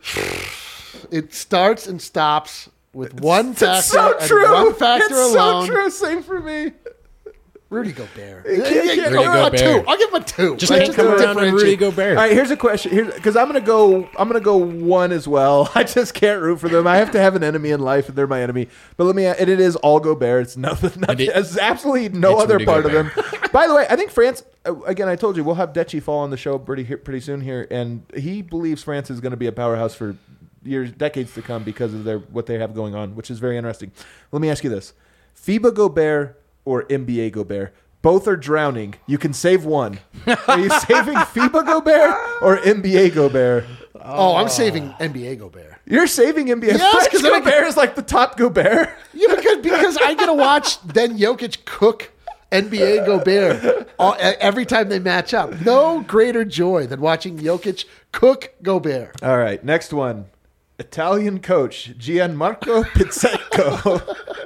It starts and stops with one factor. It's so and true. One factor it's alone. so true. Same for me. Rudy Gobert. can't- Yeah, can't- yeah, Rudy I'll give him a Gobert. two. I'll give him a two. Just Like, can't come around on differentiate. Rudy Gobert. All right, here's a question. Here's because I'm gonna go. I'm gonna go one as well. I just can't root for them. I have to have an enemy in life, and they're my enemy. But let me. And it is all Gobert. It's nothing. nothing it- it's absolutely no it's other Rudy part Gobert. of them. By the way, I think France. uh, Again, I told you we'll have Dechi fall on the show pretty pretty soon here, and he believes France is going to be a powerhouse for years, decades to come because of their what they have going on, which is very interesting. Let me ask you this: FIBA Gobert or N B A Gobert? Both are drowning. You can save one. Are you saving FIBA Gobert or N B A Gobert? Oh, I'm saving N B A Gobert. You're saving N B A. Yes, French 'cause then I Gobert is like the top Gobert. Yeah, because because I get to watch then Jokic cook N B A Gobert all, e- every time they match up. No greater joy than watching Jokic cook Gobert. All right, next one. Italian coach Gianmarco Pizzecco.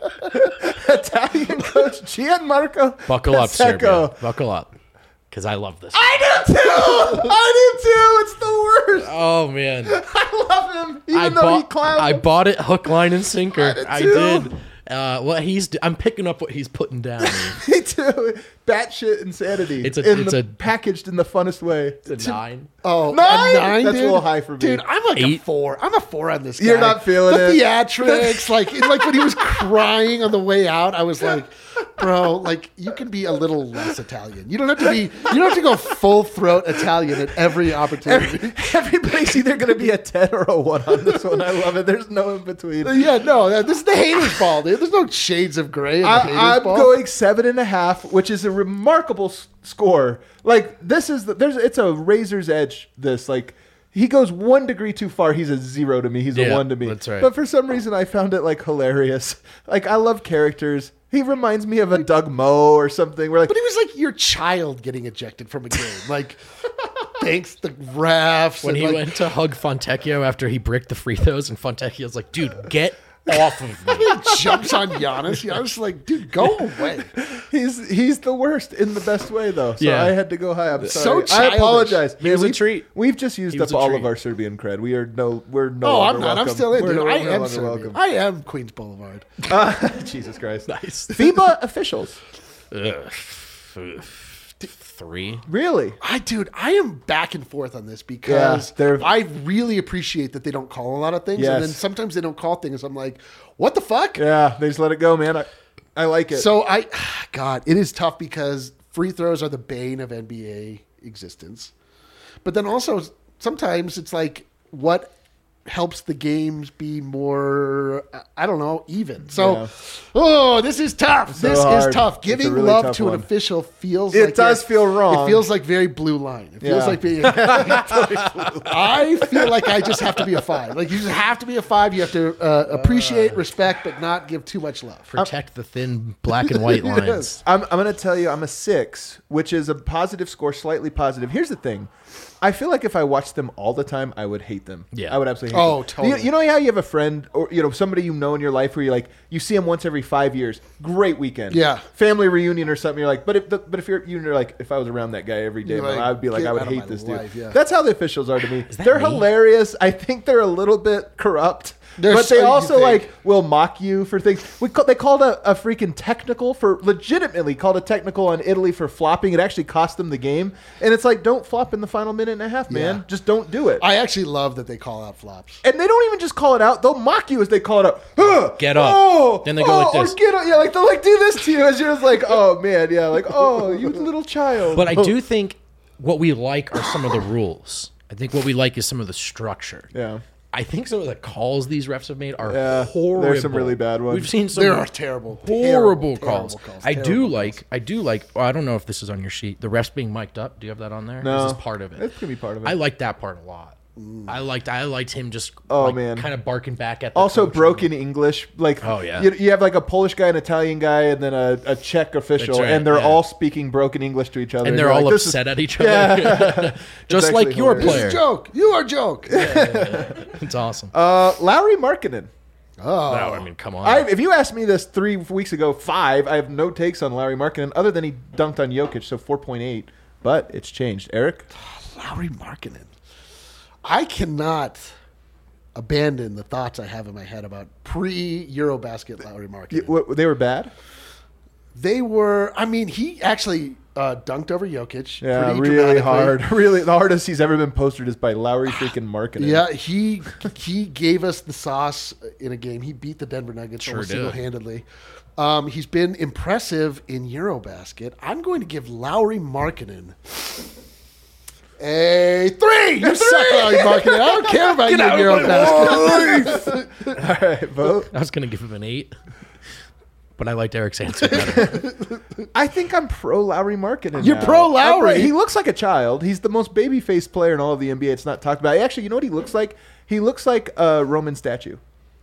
Italian coach Gianmarco Buckle up, Pizzecco. Serbia. Buckle up. Because I love this. I do too. I do too. It's the worst. Oh, man. I love him, even I though he bought, clowns. I bought it hook, line, and sinker. did I too. did. Uh, what he's, d- I'm picking up what he's putting down. Me too. Batshit insanity. It's a- in it's the, a- packaged in the funnest way. It's a nine. Oh, Nine? a nine That's a dude? little high for me. Dude, I'm like a Eight. four. I'm a four on this guy. You're not feeling the it. theatrics, like like when he was crying on the way out, I was like, bro, like you can be a little less Italian. You don't have to be. You don't have to go full throat Italian at every opportunity. Every, everybody's either going to be a ten or a one on this one. I love it. There's no in between. Yeah, no, this is the haters ball, dude. There's no shades of gray in the haters I, I'm ball. going seven and a half, which is a remarkable s- score. Like this is the, there's it's a razor's edge. This like he goes one degree too far. He's a zero to me. He's a Yeah, one to me. that's right. But for some reason, I found it like hilarious. Like I love characters. He reminds me of a Doug Moe or something. We're like, But he was like your child getting ejected from a game. Like, thanks the refs. When and he like, went to hug Fontecchio after he bricked the free throws, and Fontecchio's like, dude, get off of me. he jumps on Giannis. Giannis is like, dude, go away. he's he's the worst in the best way though. So Yeah. I had to go high. I'm So sorry. I childish. apologize. He was a we've, treat. We've just used He up was a all treat. of our Serbian cred. We are no. We're no. Oh, longer I'm not. I'm welcome. still in, We're dude. no- I we're no am longer Serbian. welcome. I am Queens Boulevard. Uh, Jesus Christ. Nice. FIBA officials. Ugh. three. Really? I, dude, I am back and forth on this because Yeah, they're- I really appreciate that they don't call a lot of things, Yes. and then sometimes they don't call things. I'm like, what the fuck? Yeah, they just let it go, man. I, I like it. So I, God, it is tough because free throws are the bane of N B A existence. But then also sometimes it's like what helps the games be more, I don't know, even. So, Yeah. oh, this is tough. So this hard. is tough. It's a Giving really love tough to one. an official feels It like does you're- feel wrong. It feels like very blue line. It feels Yeah. like being. I feel like I just have to be a five. Like you just have to be a five. You have to uh, appreciate, respect, but not give too much love. Protect the thin black and white lines. I'm, I'm going to tell you, I'm a six, which is a positive score, slightly positive. Here's the thing. I feel like if I watched them all the time, I would hate them. Yeah. I would absolutely hate Oh, them. totally. You, you know how you have a friend or you know somebody you know in your life where you like you see them once every five years. Great weekend. Yeah. Family reunion or something. You're like, but if the, but if you're you're like, if I was around that guy every day, You're man, like, I would be like, get I would out of hate my this life, dude. yeah. That's how the officials are to me. that They're me? hilarious. I think they're a little bit corrupt. They're but so- they you also think. like will mock you for things. We call, they called a, a freaking technical for legitimately called a technical on Italy for flopping. It actually cost them the game. And it's like, don't flop in the final minute and a half, man. Yeah. Just don't do it. I actually love that they call out flops. and they don't even just call it out; they'll mock you as they call it out. Huh, Get up. Oh, Then they go oh, like this. Or get up. Yeah, like they'll like do this to you as you're just like, oh man, yeah, like oh, you little child. But I do think what we like are some of the rules. I think what we like is some of the structure. Yeah. I think some of the calls these refs have made are Yeah, horrible. there's some really bad ones. We've seen some There are terrible, horrible terrible, calls. terrible calls, I do terrible like. calls. I do like. Well, I don't know if this is on your sheet. The refs being mic'd up. Do you have that on there? No. This is part of it. It's gonna be part of it. I like that part a lot. I liked. I liked him just. Oh, like, man. kind of barking back at. The Also coach. broken English, like Oh, yeah. you, you have like a Polish guy, an Italian guy, and then a, a Czech official, That's right, and they're yeah. all speaking broken English to each other, and they're you're all like, this is- upset at each other. Yeah. just It's like actually your hilarious. This player. is a joke. You are a joke. It's awesome. Uh, Lowry Markkinen. Oh, no, I mean, come on. I, if you asked me this three weeks ago, five, I have no takes on Lowry Markkinen other than he dunked on Jokic, so four point eight. But it's changed. Eric? Lowry Markkinen. I cannot abandon the thoughts I have in my head about pre-Eurobasket Lowry Markkinen. Y- what, they were bad? They were. I mean, he actually uh, dunked over Jokic. Yeah, pretty really dramatically. hard. Really, the hardest he's ever been posted is by Lowry freaking Markkinen. Yeah, he he gave us the sauce in a game. He beat the Denver Nuggets Sure almost did. single-handedly. Um, he's been impressive in Eurobasket. I'm going to give Lowry Markkinen a three. You suck, Lowry Markkinen. I don't care about you in Eurobasket. All right, vote. I was going to give him an eight, but I liked Eric's answer better. I think I'm pro Lowry Markkinen. You're now. pro Lowry? I'm He looks like a child. He's the most baby-faced player in all of the N B A. It's not talked about. Actually, you know what he looks like? He looks like a Roman statue.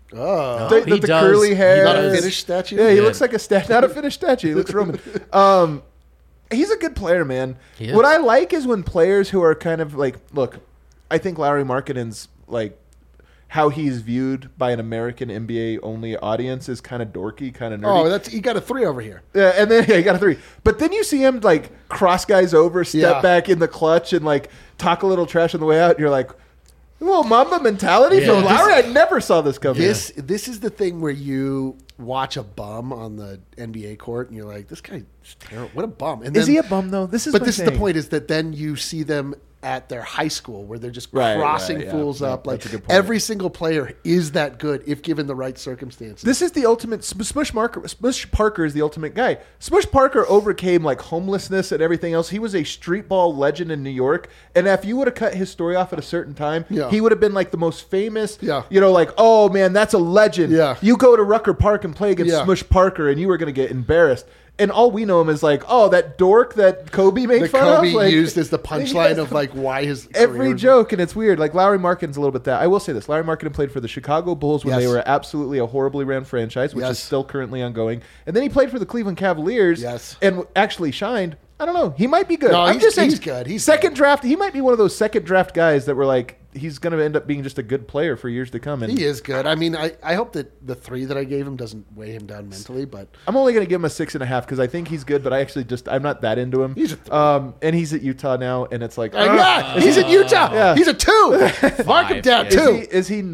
Oh, The, he the, the does. curly He hair. not a does. finished statue. Yeah, he Yeah. looks like a statue. Not a finished statue. He looks Roman. Um, he's a good player, man. He is. What I like is when players who are kind of like, look, I think Lowry Markkinen's like how he's viewed by an American N B A only audience is kind of dorky, kind of nerdy. Oh, that's you got a three over here. Yeah, and then yeah, he got a three. But then you see him like cross guys over, step Yeah. back in the clutch, and like talk a little trash on the way out. And you're like, well, Mamba mentality Yeah. from This- Lowry. I never saw this coming. This this is the thing where you watch a bum on the N B A court and you're like, this guy's terrible. What a bum. And is then, he a bum though? This is. But my this is the thing. point: is that then you see them at their high school where they're just Right, crossing right, yeah. fools Yeah, up. Like that's a good point. every single player is that good if given the right circumstances. This is the ultimate. Sm- Smush, Marker, Smush Parker is the ultimate guy. Smush Parker overcame like homelessness and everything else. He was a street ball legend in New York. And if you would have cut his story off at a certain time, Yeah. he would have been like the most famous. Yeah. You know, like, oh man, that's a legend. Yeah. You go to Rucker Park and play against Yeah. Smush Parker, and you were going to get embarrassed. And all we know him is like, oh, that dork that Kobe made that fun Kobe of. Like, used as the punchline Yes. of like why his career Every was- joke, and it's weird. Like Lowry Markkinen's a little bit that. I will say this: Lowry Markkinen played for the Chicago Bulls when Yes. they were absolutely a horribly ran franchise, which Yes. is still currently ongoing. And then he played for the Cleveland Cavaliers, Yes. and actually shined. I don't know. He might be good. No, I'm he's- just saying, he's good. He's second good. draft. He might be one of those second draft guys that were like, he's going to end up being just a good player for years to come. And He is good. I mean, I, I hope that the three that I gave him doesn't weigh him down mentally, but I'm only going to give him a six and a half because I think he's good, but I actually just I'm not that into him. He's a three. um, and he's at Utah now, and it's like, Uh, ah, yeah, he's in Utah. Yeah. He's a two. Mark him Five, down yeah. is two. he is he not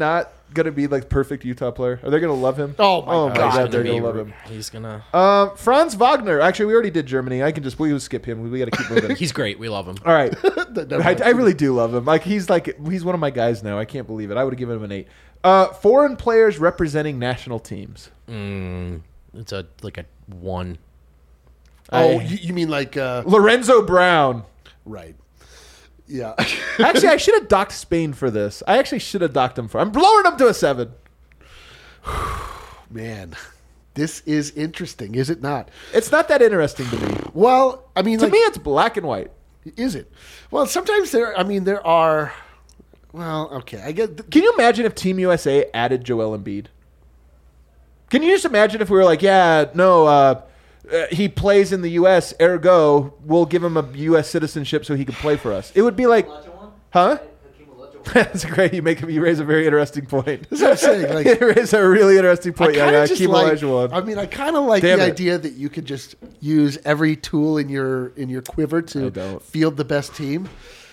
gonna be like perfect Utah player? Are they gonna love him? Oh, my oh God. my He's God, they're gonna gonna be- love him. He's gonna. Uh, Franz Wagner. Actually, we already did Germany. I can just we will skip him. We got to keep moving. He's great. We love him. All right. Never I, mind. I really do love him. Like he's like he's one of my guys now. I can't believe it. I would have given him an eight. Uh, foreign players representing national teams. Mm, it's a like a one. Oh, I- you, you mean like uh, Lorenzo Brown. right? Yeah. Actually, I should have docked Spain for this. I actually should have docked him for. I'm lowering him to a seven. Man, this is interesting, is it not? It's not that interesting to me. Well, I mean, To like, me, it's black and white. is it? Well, sometimes there. I mean, there are. Well, okay, I get. Can you imagine if Team U S A added Joel Embiid? Can you just imagine if we were like, yeah, no, uh, uh, he plays in the U S, ergo, we'll give him a U S citizenship so he can play for us. It would be like, huh? That's great. You make you raise a very interesting point. That's what I'm saying. Like, you raise a really interesting I point. Yeah, kind yeah, of just Hakeem like. Olajuwon. I mean, I kind of like Damn the it. idea that you could just use every tool in your in your quiver I to don't. field the best team.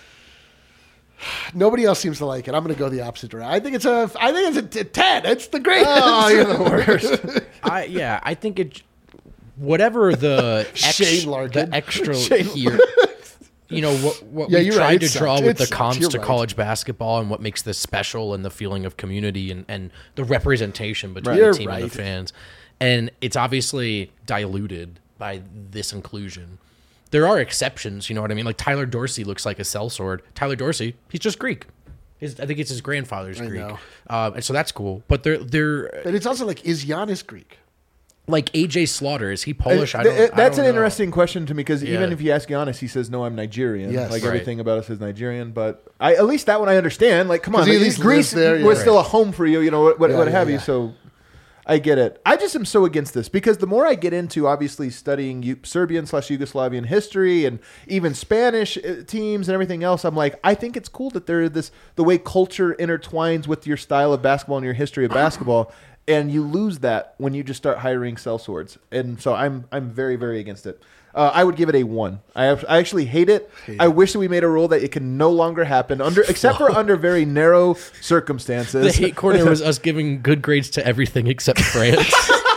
Nobody else seems to like it. I'm going to go the opposite direction. I think it's a. I think it's a t- ten. It's the greatest. Oh, you're the worst. I yeah. I think it. Whatever the ex, Shane Larkin. the extra Shane here. You know what? What Yeah, we you're tried right. to It draw sucks. with It the sucks. comps You're to right. college basketball and what makes this special and the feeling of community and, and the representation between You're the team and right. the fans, and it's obviously diluted by this inclusion. There are exceptions, you know what I mean? Like Tyler Dorsey looks like a sellsword. Tyler Dorsey, he's just Greek. His, I think it's his grandfather's I Greek, know. um, and so that's cool. But they're they're But it's also like, is Giannis Greek? like A J Slaughter. Is he Polish? I Th- don't. th- that's I an don't know. interesting question to me because even Yeah. if you ask Giannis, he says, "No, I'm Nigerian." Yes. like Right. everything about us is Nigerian. But I, at least that one I understand. Like, come on, 'Cause he at like, least Greece lives there, yeah. was Right. still a home for you. You know what, what, Yeah, what yeah, have you? yeah. So I get it. I just am so against this because the more I get into obviously studying U- Serbian slash Yugoslavian history and even Spanish uh, teams and everything else, I'm like, I think it's cool that there is this the way culture intertwines with your style of basketball and your history of basketball. And you lose that when you just start hiring sellswords, and so I'm I'm very very against it. Uh, I would give it a one. I, I actually hate it. Hate I it. wish that we made a rule that it can no longer happen under, except for under very narrow circumstances. The hate corner was us giving good grades to everything except France.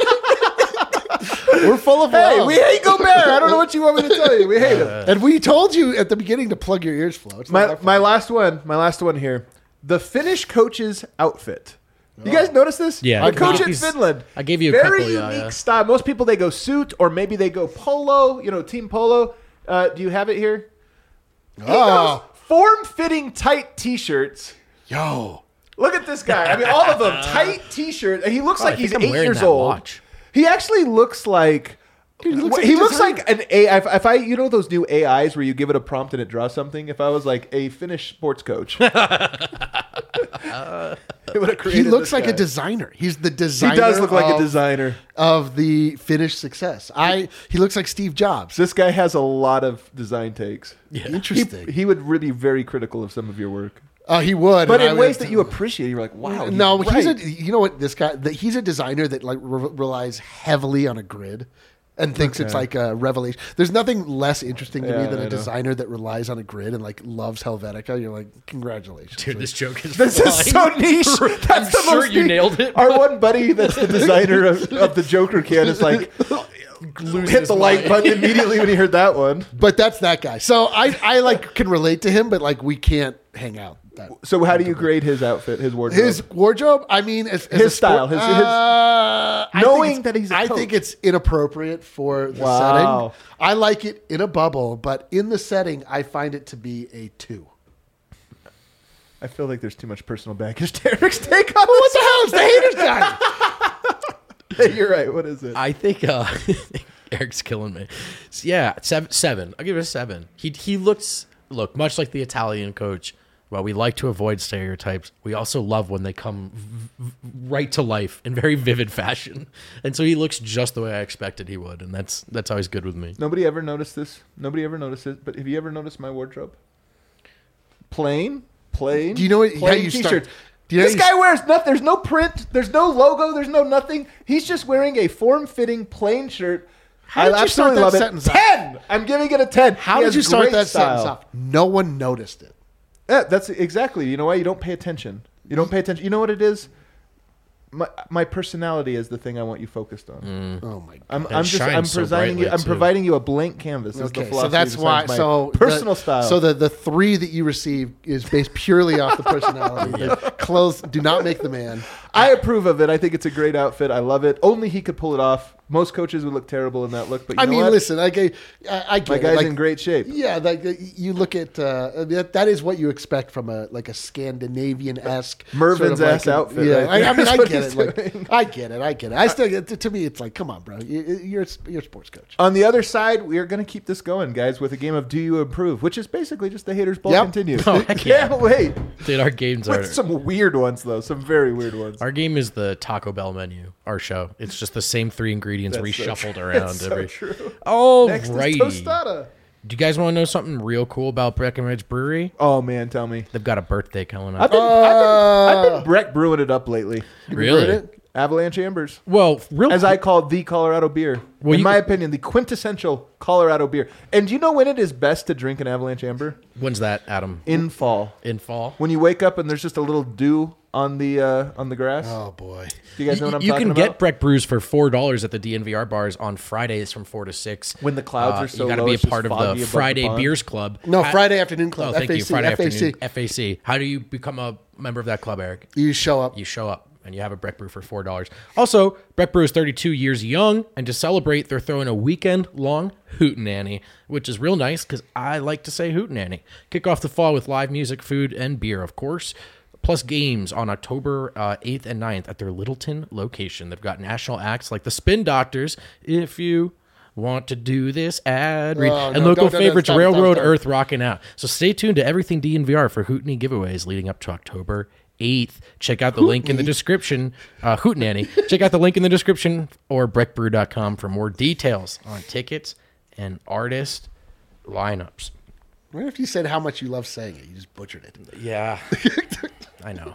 We're full of Hey, love. we hate Gobert. I don't know what you want me to tell you. We hate him. and we told you at the beginning to plug your ears, Flo. It's not My our fault. my last one. My last one here. The Finnish coach's outfit. You guys notice this? Yeah. the I coach gave in you- Finland. I gave you a very couple, yeah, unique yeah. style. Most people they go suit or maybe they go polo. You know, team polo. Uh, do you have it here? He Oh. goes form-fitting tight T-shirts. Yo. Look at this guy. I mean, all of them tight T-shirts. And he looks Oh, I like he's think I'm eight wearing years that old. watch. He actually looks like. Dude, he looks like he a looks designer. like an A I. If, if I, you know, those new A Is where you give it a prompt and it draws something. If I was like a Finnish sports coach, it would have created. He looks this like a guy. designer. He's the designer. He does look like of, a designer. of the Finnish success. I. He looks like Steve Jobs. This guy has a lot of design takes. He, Interesting. he would really be very critical of some of your work, Oh, he would. but and I in would- ways that you appreciate. You're like, wow. he's no, he's a. right. You know what? This guy. The, he's a designer that like re- relies heavily on a grid. And thinks it's Okay. like a revelation. There's nothing less interesting to Yeah, me than I a know. designer that relies on a grid and like loves Helvetica. You're like, congratulations. Dude, Like, this joke is This is so flying. niche. That's I'm the sure most you niche- nailed it. Our one buddy, that's the designer of, of the Joker can, is like hit the like mind. button immediately when he heard that one. but that's that guy. So I, I like can relate to him, but like we can't hang out. That, So how do you grade his outfit, his wardrobe? his wardrobe. I mean, as, as His a sport- style, his- his- uh, I knowing think it's- that he's a I coach. think it's inappropriate for the Wow. setting. I like it in a bubble, but in the setting, I find it to be a two. I feel like there's too much personal baggage to Eric's take on What the hell is the haters guy? this. You're right. What is it? I think uh, Eric's killing me. So, yeah, seven, seven. I'll give it a seven. He he looks look much like the Italian coach. While we like to avoid stereotypes, we also love when they come v- v- right to life in very vivid fashion. And so he looks just the way I expected he would, and that's that's always good with me. Nobody ever noticed this. Nobody ever noticed it. But have you ever noticed my wardrobe? Plain, plain. Do you know what- how plain you start- t-shirts. do you know This how you guy wears nothing. There's no print. There's no logo. There's no nothing. He's just wearing a form-fitting plain shirt. How did I you start absolutely that love sentence it. off? Ten. I'm giving it a ten. How He did has you start great that style. sentence off? No one noticed it. Yeah, that's exactly. You know why? You don't pay attention. You don't pay attention. You know what it is? my my personality is the thing I want you focused on. Mm. Oh my god! I'm, And I'm just I'm shines so providing you. brightly, I'm too. providing you a blank canvas. Is the Okay, so philosophy that's why. besides my So personal the, style. So the the three that you receive is based purely off the personality. The clothes do not make the man. I approve of it. I think it's a great outfit. I love it. Only he could pull it off. Most coaches would look terrible in that look. But you I know mean, what? listen, I, get- I, I get my it. guy's Like, in great shape. Yeah, like uh, you look at uh, that, that is what you expect from a like a Scandinavian esque Mervin's ass outfit Yeah, right I, I there mean, is I what get he's it. Like, doing. I get it. I get it. I still get to me. It's like, come on, bro. You, you're you're a sports coach. On the other side, we are going to keep this going, guys, with a game of Do You Approve, which is basically just the haters ball Yep. continues. Oh, heck yeah. Can't wait. Dude, our games are. With some weird ones, though. Some very weird ones. Our game is the Taco Bell menu. Our show. It's just the same three ingredients That's so reshuffled true. around That's so every. true. Oh, Next righty. is Tostada. Do you guys want to know something real cool about Breckenridge Brewery? Oh, man, tell me. They've got a birthday coming I've up. been, I've been, I've been Breck brewing it up lately. Really? Heard it? Avalanche Ambers. Well, real As I call the Colorado beer. Well, In you- my opinion, the quintessential Colorado beer. And do you know when it is best to drink an Avalanche Amber? when's that, Adam? In fall. In fall. When you wake up and there's just a little dew on the uh, on the grass. Oh boy. Do you guys know what I'm you talking can about? get Breck brews for four dollars at the D N V R bars on Fridays from four to six. When the clouds Uh, are so you gotta low, be a it's just part of foggy the above the Friday pond. Beers Club. No, How- Friday afternoon club. Oh, thank F A C, you. Friday F A C. afternoon. F A C. How do you become a member of that club, Eric? You show up. You show up and you have a Breck brew for four dollars. Also, Breck brew is thirty-two years young, and to celebrate, they're throwing a weekend-long hootenanny, which is real nice because I like to say hootenanny. Kick off the fall with live music, food, and beer, of course. Plus games on October uh, eighth and ninth at their Littleton location. They've got national acts like the Spin Doctors, if you want to do this ad read, Oh, and no, local don't, don't, favorites stop, Railroad stop, stop. Earth rocking out. So stay tuned to everything D N V R for Hootenanny giveaways leading up to October eighth. Check out the link in the description. Uh, Hootenanny. Check out the link in the description or breck brew dot com for more details on tickets and artist lineups. I wonder if you said how much you love saying it. You just butchered it. Yeah. I know.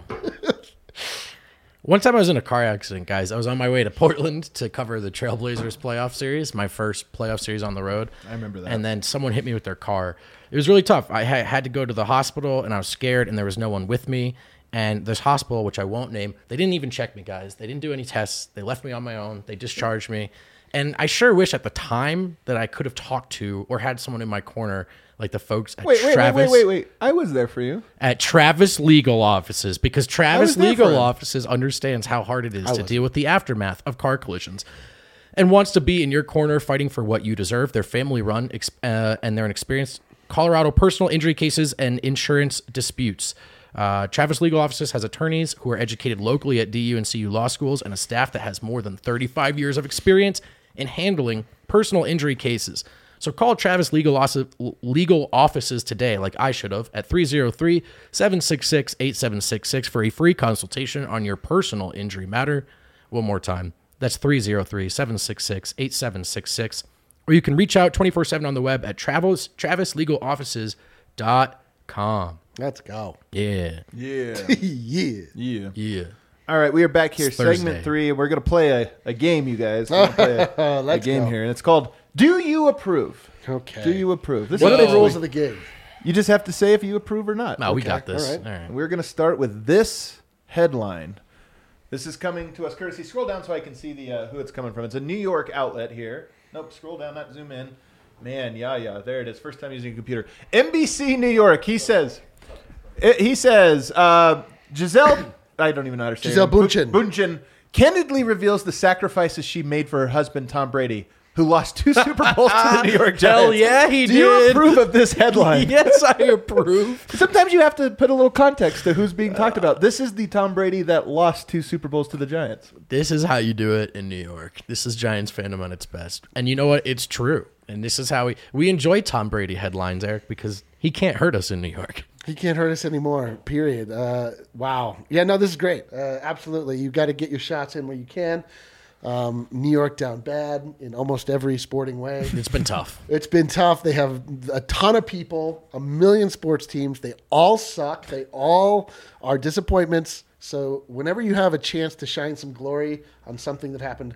One time I was in a car accident, guys. I was on my way to Portland to cover the Trailblazers playoff series, my first playoff series on the road. I remember that. And then someone hit me with their car. It was really tough. I ha- had to go to the hospital, and I was scared, and there was no one with me. And this hospital, which I won't name, they didn't even check me, guys. They didn't do any tests. They left me on my own. They discharged me. And I sure wish at the time that I could have talked to or had someone in my corner, like the folks at Wait, wait, wait, Travis wait, wait, wait. I was there for you. at Travis Legal Offices, because Travis was there Legal for him. Offices understands how hard it is to wasn't. deal with the aftermath of car collisions and wants to be in your corner fighting for what you deserve. They're family run ex- uh, and they're an experienced Colorado personal injury cases and insurance disputes. Uh, Travis Legal Offices has attorneys who are educated locally at D U and C U law schools and a staff that has more than thirty-five years of experience in handling personal injury cases. So call Travis Legal, Os- Legal Offices today, like I should have, at three oh three, seven six six, eight seven six six for a free consultation on your personal injury matter. One more time. That's three oh three, seven six six, eight seven six six. Or you can reach out twenty-four seven on the web at travis, travis legal offices dot com. Let's go. Yeah. Yeah. Yeah. yeah. Yeah. All right, we are back here, It's Thursday. segment three. We're going to play a, a game, you guys. We're gonna play a, a Let's game go. here, and it's called Do You Approve? Okay. Do you approve? This What is are the basically- rules of the game? You just have to say if you approve or not. No, we Okay, got this. all All right. right. We're going to start with this headline. This is coming to us courtesy. Scroll down so I can see the uh, who it's coming from. It's a New York outlet here. Nope, scroll down, not zoom in. Man, yeah, yeah, there it is. First time using a computer. N B C New York. He says, it, he says, uh, Giselle, I don't even know how to say Giselle her name. Bündchen. Bündchen candidly reveals the sacrifices she made for her husband Tom Brady, who lost two Super Bowls to the New York Giants. Hell yeah, he Do you did. approve of this headline? Yes, I approve. Sometimes you have to put a little context to who's being talked about. This is the Tom Brady that lost two Super Bowls to the Giants. This is how you do it in New York. This is Giants fandom on its best. And you know what? It's true. And this is how we we enjoy Tom Brady headlines, Eric, because he can't hurt us in New York. He can't hurt us anymore, period. Uh, wow. Yeah, no, this is great. Uh, absolutely. You've got to get your shots in where you can. Um, New York down bad in almost every sporting way. It's been tough. It's been tough. They have a ton of people, a million sports teams. They all suck. They all are disappointments. So whenever you have a chance to shine some glory on something that happened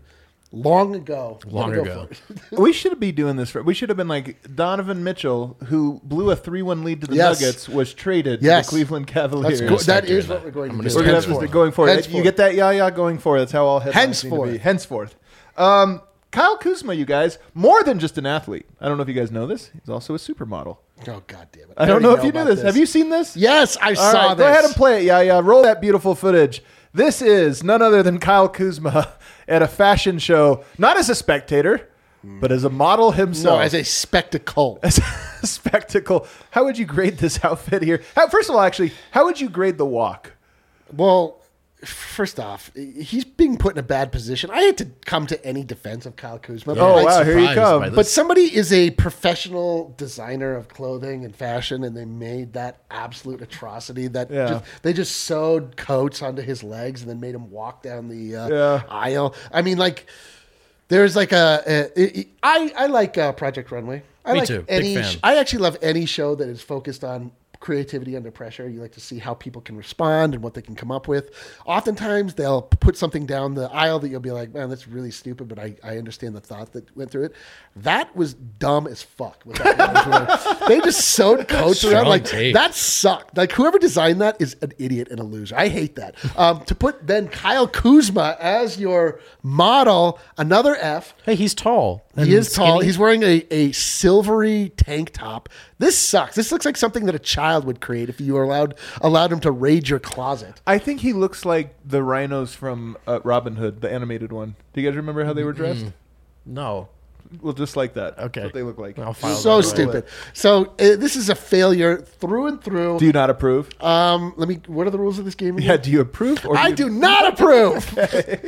long ago. Long Go ago. for it. We should be doing this. For, we should have been like Donovan Mitchell, who blew a three one lead to the Yes. Nuggets, was traded Yes. to the Cleveland Cavaliers. That's go- start that is doing what that. we're going I'm to gonna do. We're gonna have Henceforth. to going for it. Henceforth. You get that, yeah, yeah, going for it. That's how all headlines need to be. Henceforth. Henceforth. Um, Kyle Kuzma, you guys, more than just an athlete. I don't know if you guys know this. He's also a supermodel. Oh, God damn it. I don't know if you knew about this. Have you seen this? Yes, I All saw right, this. go ahead and play it. Yeah, yeah. Roll that beautiful footage. This is none other than Kyle Kuzma at a fashion show, not as a spectator, but as a model himself. No, as a spectacle. As a spectacle. How would you grade this outfit here? How, first of all, actually, how would you grade the walk? Well, first off, he's being put in a bad position. I hate to come to any defense of Kyle Kuzma. Yeah. Oh, but, wow, I- here you surprised come. by this. but somebody is a professional designer of clothing and fashion, and they made that absolute atrocity that Yeah. just, they just sewed coats onto his legs and then made him walk down the uh, Yeah. aisle. I mean, like, there's like a, a, a I I like uh, Project Runway. I Me like too. Big any. fan. I actually love any show that is focused on creativity under pressure. You like to see how people can respond and what they can come up with. Oftentimes, they'll put something down the aisle that you'll be like, man, that's really stupid, but I, I understand the thought that went through it. That was dumb as fuck. With that they just sewed coats around. Strong Like, take. that sucked. Like, whoever designed that is an idiot and a loser. I hate that. Um, to put then Kyle Kuzma as your model, another F. Hey, he's tall. He and is tall. skinny. He's wearing a, a silvery tank top. This sucks. This looks like something that a child would create if you were allowed allowed him to raid your closet. I think he looks like the rhinos from uh, Robin Hood, the animated one. Do you guys remember how they were dressed? No. Well, just like that. That's Okay. what they look like. I'll file So that away. stupid. So uh, this is a failure through and through. Do you not approve? um, let me. What are the rules of this game? Yeah, Again? do you approve? Or I you- do not approve.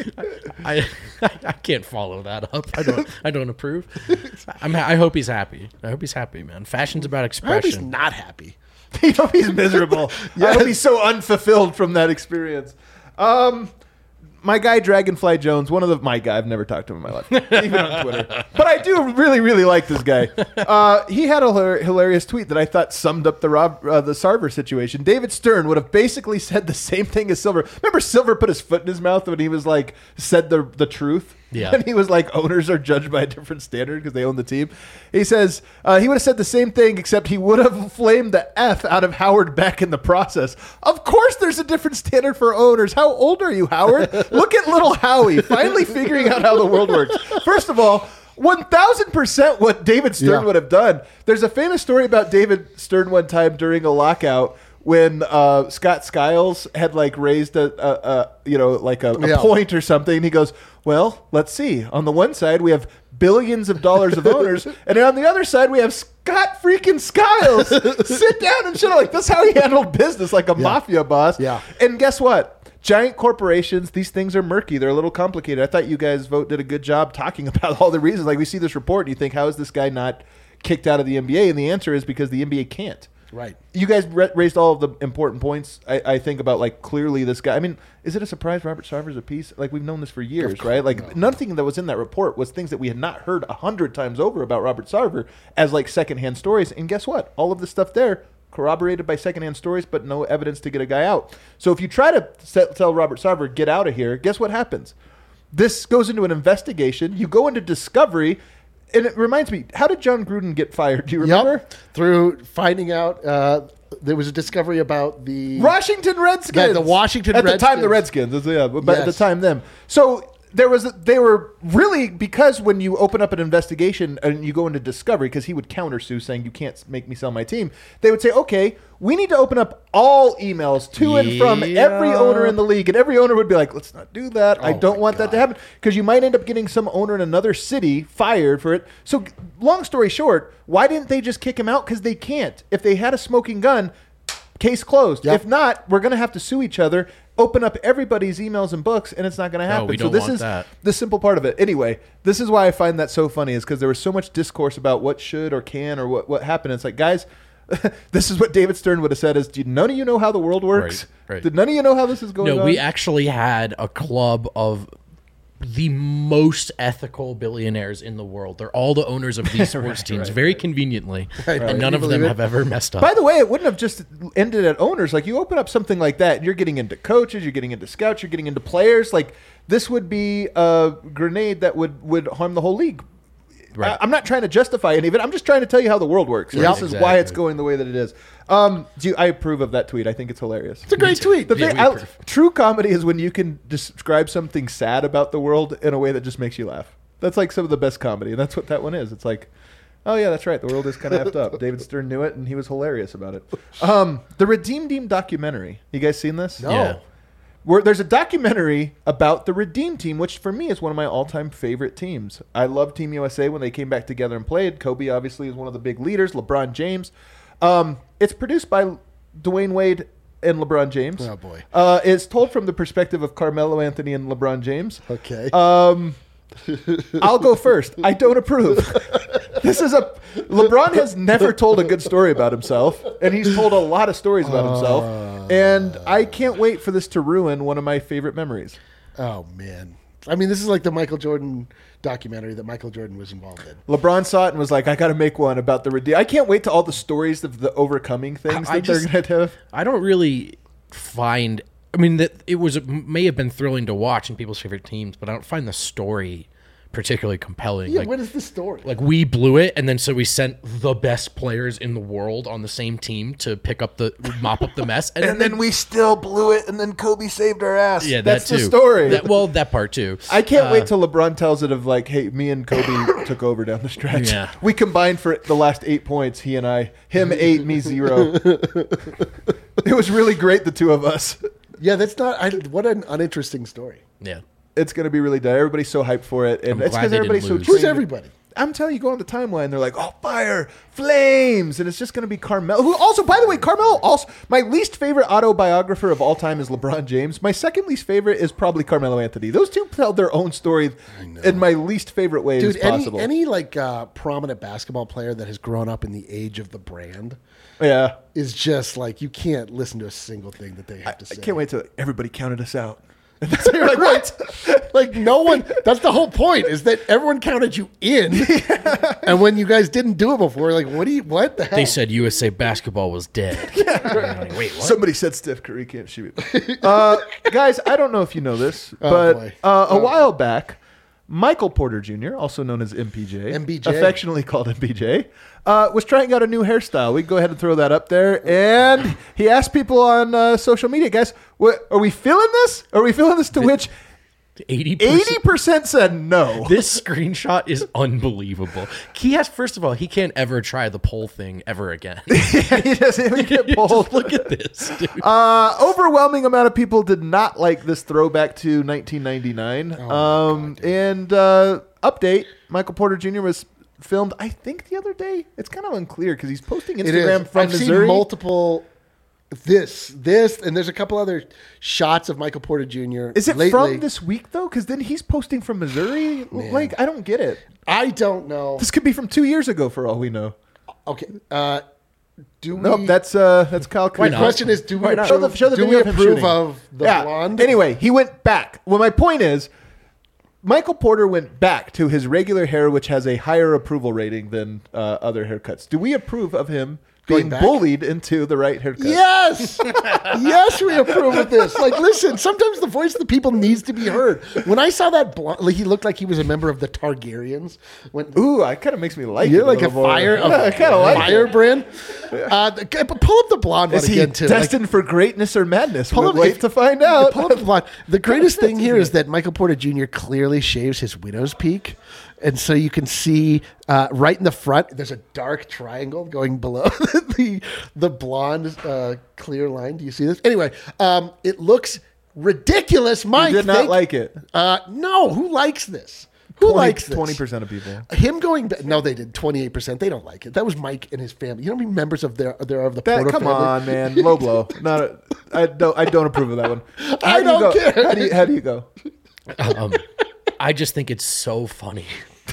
I I can't follow that up. I don't I don't approve. I'm ha- I hope he's happy. I hope he's happy, man. Fashion's about I hope he's expression. not happy. I hope he's miserable. I hope he's so unfulfilled from that experience. Um, my guy Dragonfly Jones, one of the my guy. I've never talked to him in my life, even on Twitter. But I do really, really like this guy. Uh, he had a hilar- hilarious tweet that I thought summed up the Rob uh, the Sarver situation. David Stern would have basically said the same thing as Silver. Remember, Silver put his foot in his mouth when he was like said the the truth. Yeah. And he was like, owners are judged by a different standard because they own the team. He says uh, he would have said the same thing, except he would have flamed the F out of Howard Beck in the process. Of course there's a different standard for owners. How old are you, Howard? Look at little Howie, finally figuring out how the world works. First of all, one thousand percent what David Stern Yeah. would have done. There's a famous story about David Stern one time during a lockout when uh, Scott Skiles had like raised a, a, a you know like a, a Yeah. point or something. He goes, well, let's see. On the one side, we have billions of dollars of owners, and on the other side, we have Scott freaking Skiles. Sit down and shit. Like, that's how he handled business, like a mafia boss. Yeah. And guess what? Giant corporations, these things are murky. They're a little complicated. I thought you guys vote did a good job talking about all the reasons. Like, we see this report, and you think, how is this guy not kicked out of the N B A? And the answer is because the N B A can't. Right. You guys ra- raised all of the important points. I, I think about like clearly this guy. I mean, is it a surprise Robert Sarver's a piece? Like we've known this for years, course, right? Like no. nothing that was in that report was things that we had not heard a hundred times over about Robert Sarver as like secondhand stories. And guess what? All of the stuff there corroborated by secondhand stories, but no evidence to get a guy out. So if you try to set, tell Robert Sarver get out of here, guess what happens? This goes into an investigation. You go into discovery. And it reminds me, how did John Gruden get fired? Do you remember? Yep. Through finding out, uh, there was a discovery about the Washington Redskins. The- the Washington at the time the Redskins. Redskins, yeah, but at the Yes. time them. So there was a, they were really because when you open up an investigation and you go into discovery, because he would countersue saying you can't make me sell my team, they would say, okay, we need to open up all emails to and from every Yeah. owner in the league, and every owner would be like, let's not do that. I Oh don't my want that to God. happen because you might end up getting some owner in another city fired for it. So long story short, why didn't they just kick him out? Because they can't. If they had a smoking gun, case closed. Yep. If not, we're going to have to sue each other, open up everybody's emails and books, and it's not going to happen. we so don't this want is that. the simple part of it. Anyway, this is why I find that so funny is because there was so much discourse about what should or can or what, what happened. It's like, guys, this is what David Stern would have said is, did none of you know how the world works? Right, right. Did none of you know how this is going No, on? we actually had a club of the most ethical billionaires in the world. They're all the owners of these sports teams, very conveniently, Right. and none You of them believe it? have ever messed up. By the way, it wouldn't have just ended at owners. Like you open up something like that, you're getting into coaches, you're getting into scouts, you're getting into players. Like this would be a grenade that would, would harm the whole league. Right. I, I'm not trying to justify any of it. I'm just trying to tell you how the world works. Yep. This is why it's going the way that it is. Um, do you, I approve of that tweet. I think it's hilarious. It's a great tweet. The Yeah, thing, we I, approve. true comedy is when you can describe something sad about the world in a way that just makes you laugh. That's like some of the best comedy, and that's what that one is. It's like, oh yeah, that's right. The world is kind of effed up. David Stern knew it, and he was hilarious about it. Um, the Redeem Team documentary. You guys seen this? No. Yeah. Where there's a documentary about the Redeem Team, which for me is one of my all-time favorite teams. I love Team U S A when they came back together and played. Kobe obviously is one of the big leaders. LeBron James. Um, it's produced by Dwayne Wade and LeBron James. Oh, boy. Uh, it's told from the perspective of Carmelo Anthony and LeBron James. Okay. Um, I'll go first. I don't approve. This is a LeBron has never told a good story about himself, and he's told a lot of stories about himself. And I can't wait for this to ruin one of my favorite memories. Oh man. I mean, this is like the Michael Jordan documentary that Michael Jordan was involved in. LeBron saw it and was like, "I got to make one about the redeem." I can't wait to all the stories of the overcoming things I- I that they're just- going to have. I don't really find. I mean, that it was may have been thrilling to watch in people's favorite teams, but I don't find the story particularly compelling. Yeah, like, what is the story? like we blew it, and then so we sent the best players in the world on the same team to pick up the mop up the mess, and, And then we still blew it, and then Kobe saved our ass. yeah, that's that too. the story. That- well, that part too. I can't Uh, wait till LeBron tells it of like, "Hey, me and Kobe took over down the stretch. Yeah. We combined for the last eight points. He and I, him eight, me zero. It was really great, the two of us. Yeah, that's not. I, what an uninteresting story. Yeah, It's going to be really. Everybody's so hyped for it, and I'm it's glad because they everybody's so. didn't lose. Who's trained. everybody? I'm telling you, go on the timeline. They're like, "Oh, fire, flames," and it's just going to be Carmelo. Who also, by the way, Carmelo. Also, my least favorite autobiographer of all time is LeBron James. My second least favorite is probably Carmelo Anthony. Those two tell their own story in my least favorite way Dude, as any possible. any like uh, prominent basketball player that has grown up in the age of the brand yeah, is just like you can't listen to a single thing that they have to I say. can't wait till everybody counted us out. And that's you're like, what? Like no one. That's the whole point. Is that everyone counted you in, and when you guys didn't do it before, like what do you? What the hell? they said U S A basketball was dead. Like, wait, what? Somebody said Steph Curry can't shoot. uh, guys, I don't know if you know this, Oh, but boy. uh, a Oh, while back, Michael Porter Junior, also known as M P J, M B J. affectionately called M P J, uh, was trying out a new hairstyle. We can go ahead and throw that up there. And he asked people on uh, social media, guys, what, are we feeling this? Are we feeling this? To which Eighty eighty percent said no. This screenshot is unbelievable. He has, first of all, he can't ever try the poll thing ever again. he doesn't even get pulled. Just look at this, dude. Uh, overwhelming amount of people did not like this throwback to nineteen ninety-nine. Oh, um, and uh, update: Michael Porter Junior was filmed, I think, the other day. It's kind of unclear because he's posting It Instagram is. from I've Missouri. seen multiple. This, this, and there's a couple other shots of Michael Porter Junior Is it lately. from this week though? Because then he's posting from Missouri. Like, I don't get it. I don't know. This could be from two years ago for all we know. Okay. Uh, do we? Nope, that's uh, that's Kyle. Why The not? question is, do we Why not? approve, Show the- show the do video we of him approve shooting. of the yeah. blonde? Anyway, he went back. Well, my point is, Michael Porter went back to his regular hair, which has a higher approval rating than uh, other haircuts. Do we approve of him Going being back? bullied into the right haircut? Yes, yes, we approve of this. Like, listen, sometimes the voice of the people needs to be heard. When I saw that blonde, like, he looked like he was a member of the Targaryens. When Ooh, it kind of makes me like you're it like a little more. fire, a I kind of like it. firebrand. Uh, the- but pull up the blonde Is one he again too. Like, destined for greatness or madness? Pull We'll up- wait if- to find out. Pull up the blonde. The greatest thing here is that Michael Porter Junior clearly shaves his widow's peak. And so you can see uh, right in the front, there's a dark triangle going below the the blonde uh, clear line. Do you see this? Anyway, um, it looks ridiculous. Mike You did not thank- like it. Uh, no, who likes this? Who likes this? Twenty percent of people. Him going back? No, they did. Twenty-eight percent. They don't like it. That was Mike and his family. You know how many members of their there are of the That, Porter come family? on, man. Low blow. Not. A, I don't. I don't approve of that one. How I do you don't go? care. How do you, how do you go? Um, I just think it's so funny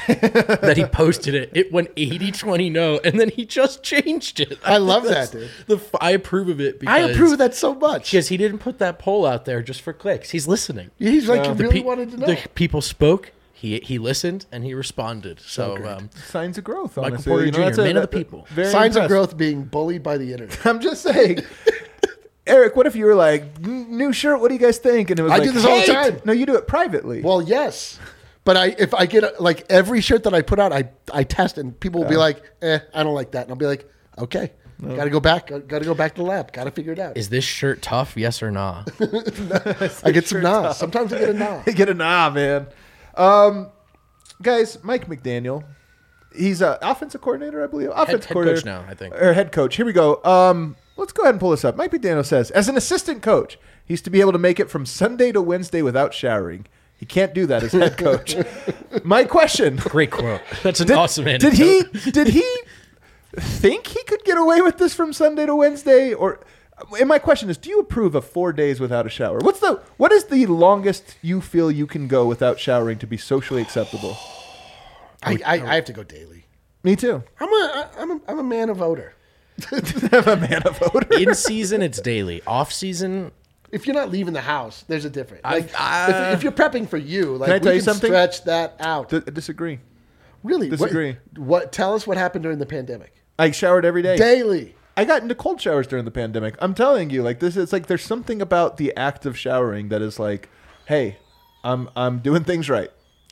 that he posted it. It went eighty twenty no, and then he just changed it. I love That's that, dude. The f- I approve of it because I approve of that so much. because he didn't put that poll out there just for clicks. He's listening. He's like, Yeah. you The really Pe- wanted to know. The people spoke. He he listened and he responded. So, um, Signs of growth. Michael Honestly. Porter You know, Junior, that's a- man of the that- people. Very Signs of impressed. growth being bullied by the internet. I'm just saying. Eric, what if you were like, "N- new shirt, what do you guys think? And it was I like, do this all the "Hate." time. No, you do it privately. Well, yes. But I, if I get a, like every shirt that I put out, I, I test and people will be like, eh, I don't like that. And I'll be like, okay, got to go back. Got to go back to the lab. Got to figure it out. Is this shirt tough? Yes or nah? I get some nods. Sometimes I get a nod. Get a nah, man. Um, guys, Mike McDaniel. He's a offensive coordinator, I believe. Offensive head coordinator coach now, I think. Or head coach. Here we go. Um, let's go ahead and pull this up. Mike McDaniel says, as an assistant coach, he's to be able to make it from Sunday to Wednesday without showering. He can't do that as head coach. My question. Great quote. That's an Did, awesome did anecdote. he did he think he could get away with this from Sunday to Wednesday? Or and my question is, do you approve of four days without a shower? What's the what is the longest you feel you can go without showering to be socially acceptable? I, I, I have to go daily. Me too. I'm a, I'm a, I'm a man of odor. I'm a man of odor. In season, it's daily. Off season, If you're not leaving the house, there's a difference. I- Like uh, if, if you're prepping for you, like Can I we tell you can something? stretch that out. D- disagree. Really? What- disagree. What, Tell us what happened during the pandemic. I showered every day. Daily. I got into cold showers during the pandemic. I'm telling you, like this, it's like there's something about the act of showering that is like, hey, I'm I'm doing things right.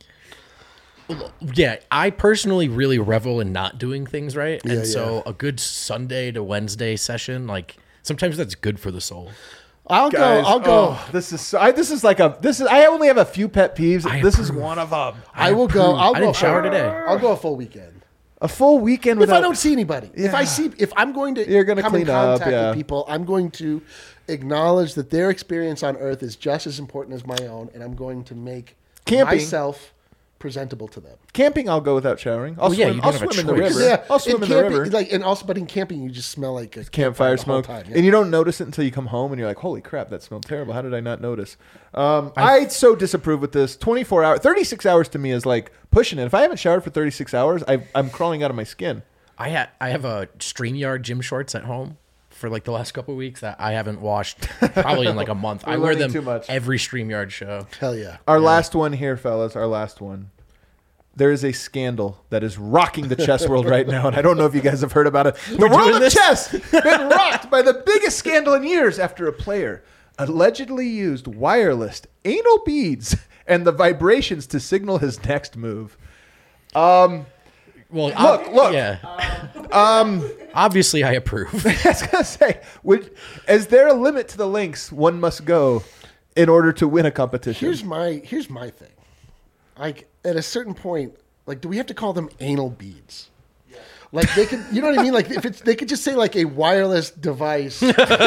yeah, I personally really revel in not doing things right. Yeah, and so yeah. a good Sunday to Wednesday session, like sometimes that's good for the soul. I'll Guys, go. I'll go. oh, this is so, I, this is like a this is. I only have a few pet peeves. I This is approve. one of them. I, will go. approve. I'll I go. didn't shower for- today. I'll go a full weekend. A full weekend If without. I don't see anybody, if I Yeah. see, if I'm going to You're gonna come in clean up, contact yeah. with people, I'm going to acknowledge that their experience on Earth is just as important as my own, and I'm going to make Camping. myself presentable to them. Camping, I'll go without showering. I'll Well, yeah, swim, you I'll don't have a swim in the choice. river. Yeah, I'll swim in, camping, the river. Like, and also, but in camping, you just smell like a Campfire the whole smoke, time, yeah. and you don't notice it until you come home, and you're like, "Holy crap, that smelled terrible! How did I not notice?" Um, I so disapprove with this. twenty-four hours, thirty-six hours to me is like pushing it. If I haven't showered for thirty-six hours, I, I'm crawling out of my skin. I ha- I have a StreamYard gym shorts at home for like the last couple of weeks that I haven't washed probably in like a month. We're I wear learning them too much. every StreamYard show. Hell yeah. Our last one here, fellas. Our last one. There is a scandal that is rocking the chess world right now, and I don't know if you guys have heard about it. The world doing of this? chess been rocked by the biggest scandal in years after a player allegedly used wireless anal beads and the vibrations to signal his next move. Um, Well, Look, ob- look. Yeah. um, Obviously, I approve. I was gonna say, would, is there a limit to the lengths one must go in order to win a competition? Here's my here's my thing. Like at a certain point, like do we have to call them anal beads? Like they could, you know what I mean? Like if it's, they could just say like a wireless device. You know what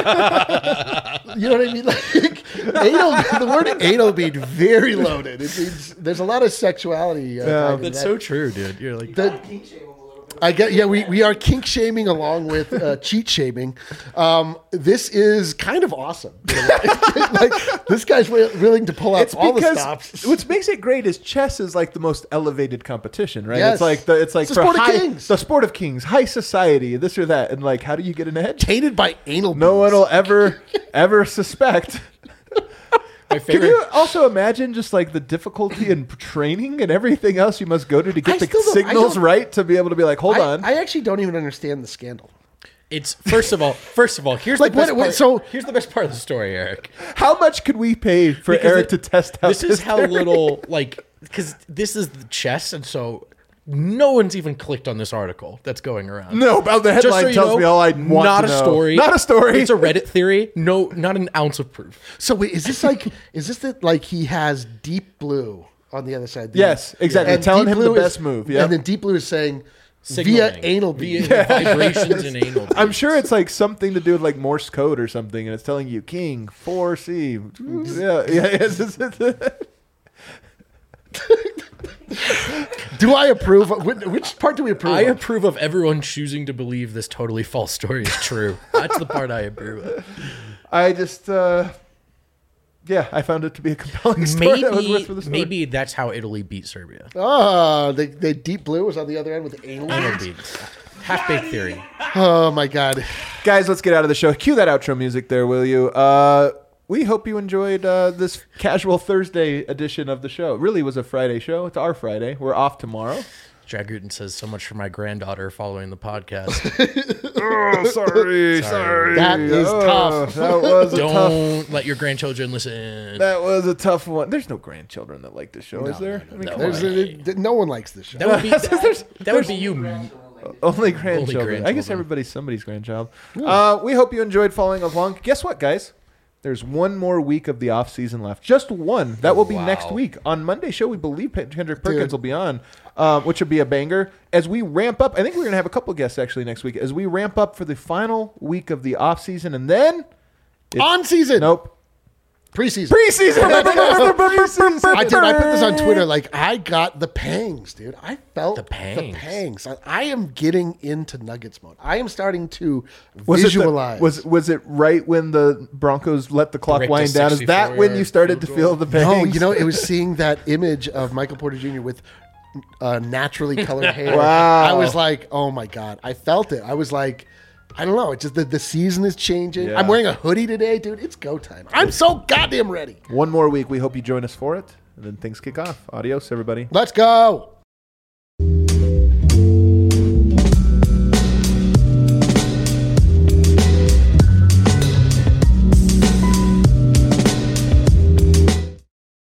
I mean? Like anal, the word anal bead very loaded. It means there's a lot of sexuality. Uh, Yeah. tied in That's that. so true, dude. You're like, The- I get, yeah, we, we are kink shaming along with uh, cheat shaming. Um, this is kind of awesome. Like this guy's wi- willing to pull out It's all the because stops. what makes it great is chess is like the most elevated competition, right? Yes. It's like the it's like It's the for sport of high, kings. the sport of kings, high society, this or that, and like, how do you get an edge? Tainted by anal. No beads. one will ever ever suspect. my Can favorite. you also imagine just like the difficulty in training and everything else you must go to to get I the still don't- I signals don't- right to be able to be like, hold I, on. I actually don't even understand the scandal. It's first of all, first of all, here's Like, the best what- what- part. so- here's the best part of the story, Eric. How much could we pay for Because Eric it- to test out This is this how theory? little like because this is the chess, and so no one's even clicked on this article that's going around. No, about the Just headline so you tells know, me all I want not to a know. story. Not a story. It's a Reddit theory. No, not an ounce of proof. So wait, is this like is this that like he has Deep Blue on the other side? Yes, exactly. And Telling Deep him the Blue is- best move, yep. And then Deep Blue is saying via Signaling. anal via bead. vibrations and anal. I'm beads. sure it's like something to do with like Morse code or something, and it's telling you King four C. Yeah, yeah. It's, it's, it's, Do I approve? Which, which part do we approve? I of? approve of everyone choosing to believe this totally false story is true. That's the part I approve of. I just, uh, yeah, I found it to be a compelling story. that was worth Maybe, for the story. maybe that's how Italy beat Serbia. Ah, the, the Deep Blue was on the other end with the anal. Anal beads. beads. Half-baked theory. Oh my god. Guys, let's get out of the show. Cue that outro music there, will you? Uh, we hope you enjoyed uh, this casual Thursday edition of the show. It really was a Friday show. It's our Friday. We're off tomorrow. Jack Gooten says so much for my granddaughter following the podcast. Oh, sorry, sorry. That is Oh, tough. That was a tough. Don't let your grandchildren listen. That was a tough one. There's no grandchildren that like this show, is there? I mean, no. come There's way. a, no one likes this show. That would be that, that would be you. on. Only grandchildren. I guess grandchildren. everybody's somebody's grandchild. Uh, we hope you enjoyed following along. Guess what, guys? There's one more week of the off season left. Just one. That will be Wow. next week. On Monday's show, we believe Kendrick Perkins Dude. will be on, um, which would be a banger. As we ramp up, I think we're going to have a couple guests actually next week. As we ramp up for the final week of the off season, and then it's- On season. Nope. Preseason. Preseason. Preseason. I did. I put this on Twitter. Like, I got the pangs, dude. I felt The the pangs. pangs. I, I am getting into Nuggets mode. I am starting to Was visualize. It the, was was it right when the Broncos let the clock Break to wind down? Is that when you sixty-four started to field feel the pain? no, you know, it was seeing that image of Michael Porter Junior with uh, naturally colored hair. Wow. I was like, oh my god, I felt it. I was like, I don't know. It's just the, the season is changing. Yeah. I'm wearing a hoodie today, dude. It's go time. I'm so goddamn ready. One more week. We hope you join us for it, and then things kick off. Adios, everybody. Let's go.